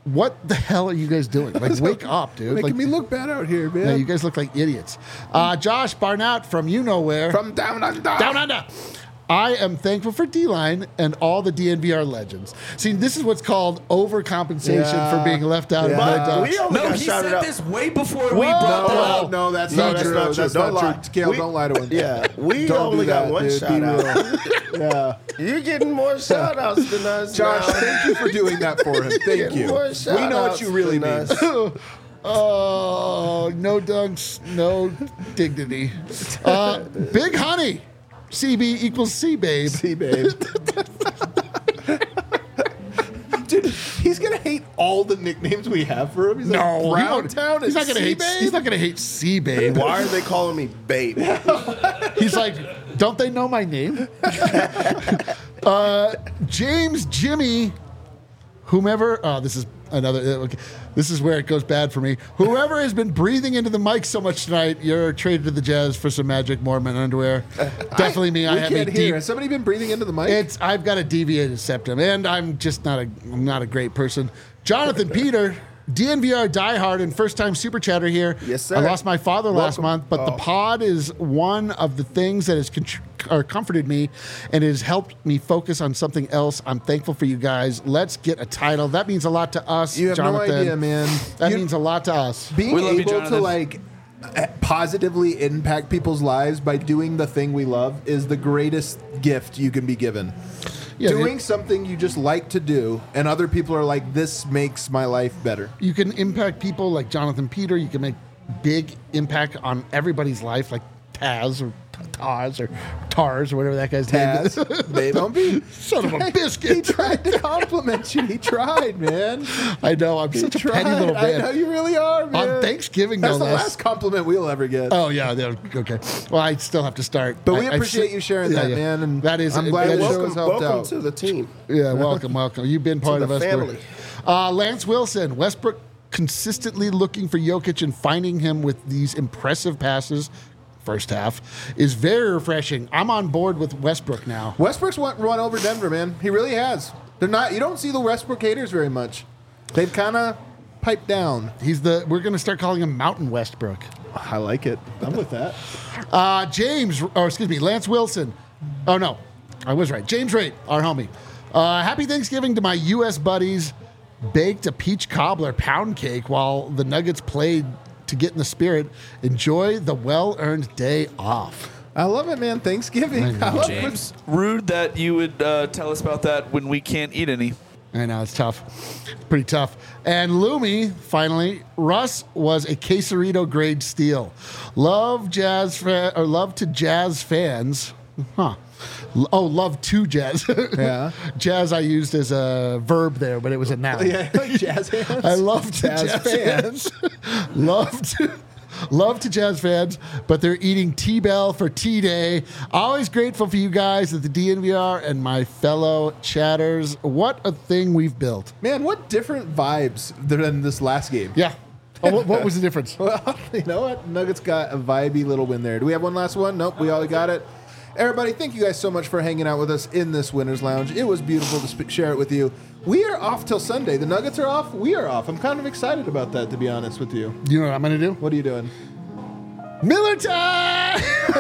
what the hell are you guys doing? Like, wake up, dude. Making Like, me look bad out here, man. yeah, you guys look like idiots. Uh, Josh Barnett from you know where. From down under. Down under. I am thankful for D-Line and all the D N V R legends. See, this is what's called overcompensation Yeah. for being left out Yeah. of my But dogs. we only No, got he shouted said out. this way before we Whoa. brought that No, up. no, that's No, not that's true. not true. That's Don't not lie. true. Kale, We- don't lie to him. Yeah, we Don't only do got that, one dude. shout Be out. real. Yeah. You're getting more shout outs than us. Josh, now. thank you for doing that for him. Thank Getting you. more We know what shout-outs you really than mean. us. Oh, no dunks, no dignity. Uh, Big Honey. C B equals C, babe. See, babe. Dude, he's gonna hate all the nicknames we have for him. He's No, like, he Brown won't- Town he's and not gonna hate. C-Babe? He's not gonna hate C, babe. Why are they calling me babe? He's like, don't they know my name? uh, James Jimmy, whomever. Oh, this is another. uh, Okay. This is where it goes bad for me. Whoever has been breathing into the mic so much tonight, you're traded to the Jazz for some Magic Mormon underwear. Definitely me. I we have a can't hear. deep. Has somebody been breathing into the mic? It's I've got a deviated septum, and I'm just not a I'm not a great person. Jonathan Peter, D N V R diehard and first time super chatter here. Yes, sir. I lost my father last Welcome. month, but the Oh. pod is one of the things that has contr- or comforted me and it has helped me focus on something else. I'm thankful for you guys. Let's get a title. That means a lot to us. you have Jonathan. no idea, man. That You- means a lot to us. being We love you, able to Jonathan. like uh, positively impact people's lives by doing the thing we love is the greatest gift you can be given. Yeah, doing it- something you just like to do, and other people are like, "This makes my life better." You can impact people like Jonathan Peter. You can make big impact on everybody's life, like Taz or Taz or Tars or whatever that guy's name is. Taz, babe, don't be. Son of a He biscuit. tried to compliment you. He tried, man. I know. I'm He such a tried. petty little I know man. you really are, man. On Thanksgiving, That's no the less. last compliment we'll ever get. Oh yeah, yeah, okay. Well, I still have to start. But we I- I appreciate si- you sharing yeah, that, yeah. man, and that is. I'm glad that the is- show welcome has helped welcome out. to the team. Yeah, welcome, welcome. You've been part the of us. family. Uh, Lance Wilson, Westbrook consistently looking for Jokic and finding him with these impressive passes. First half is very refreshing. I'm on board with Westbrook now. Westbrook's won- run over Denver, man. He really has. They're not. You don't see the Westbrook haters very much. They've kind of piped down. He's the. We're going to start calling him Mountain Westbrook. I like it. I'm with that. Uh, James, or excuse me, Lance Wilson. Oh no, I was right. James Raitt, our homie. Uh, happy Thanksgiving to my U S buddies. Baked a peach cobbler pound cake while the Nuggets played to get in the spirit. Enjoy the well-earned day off. I love it, man. Thanksgiving. I love James, rude that you would uh, tell us about that when we can't eat any. I know, it's tough. Pretty tough. And Lumi, finally, Russ was a Quesarito grade steal. Love jazz fa- or love to jazz fans. Huh. L- Oh, love to jazz. Yeah. Jazz I used as a verb there, but it was a noun. Yeah, like jazz hands. I love to Jazz jazz, fans. fans. love to love to jazz fans, but they're eating T-Bell for T-Day. Always grateful for you guys at the D N V R and my fellow chatters. What a thing we've built. Man, what different vibes than this last game. Yeah. Oh, what, what was the difference? Well, you know what? Nuggets got a vibey little win there. Do we have one last one? Nope, we all got it. Everybody, thank you guys so much for hanging out with us in this Winners Lounge. It was beautiful to sp- share it with you. We are off till Sunday. The Nuggets are off. We are off. I'm kind of excited about that, to be honest with you. You know what I'm going to do? What are you doing? Miller time!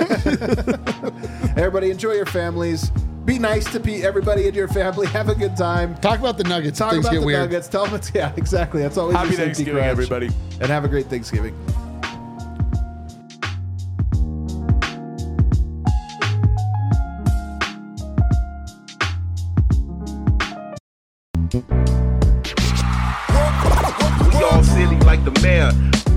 Everybody, enjoy your families. Be nice to pe- everybody in your family. Have a good time. Talk about the Nuggets. Talk Things about get the weird. Nuggets. Tell them it's, yeah, exactly. That's always Happy your safety Thanksgiving, crutch. everybody. And have a great Thanksgiving. We all silly like the mayor.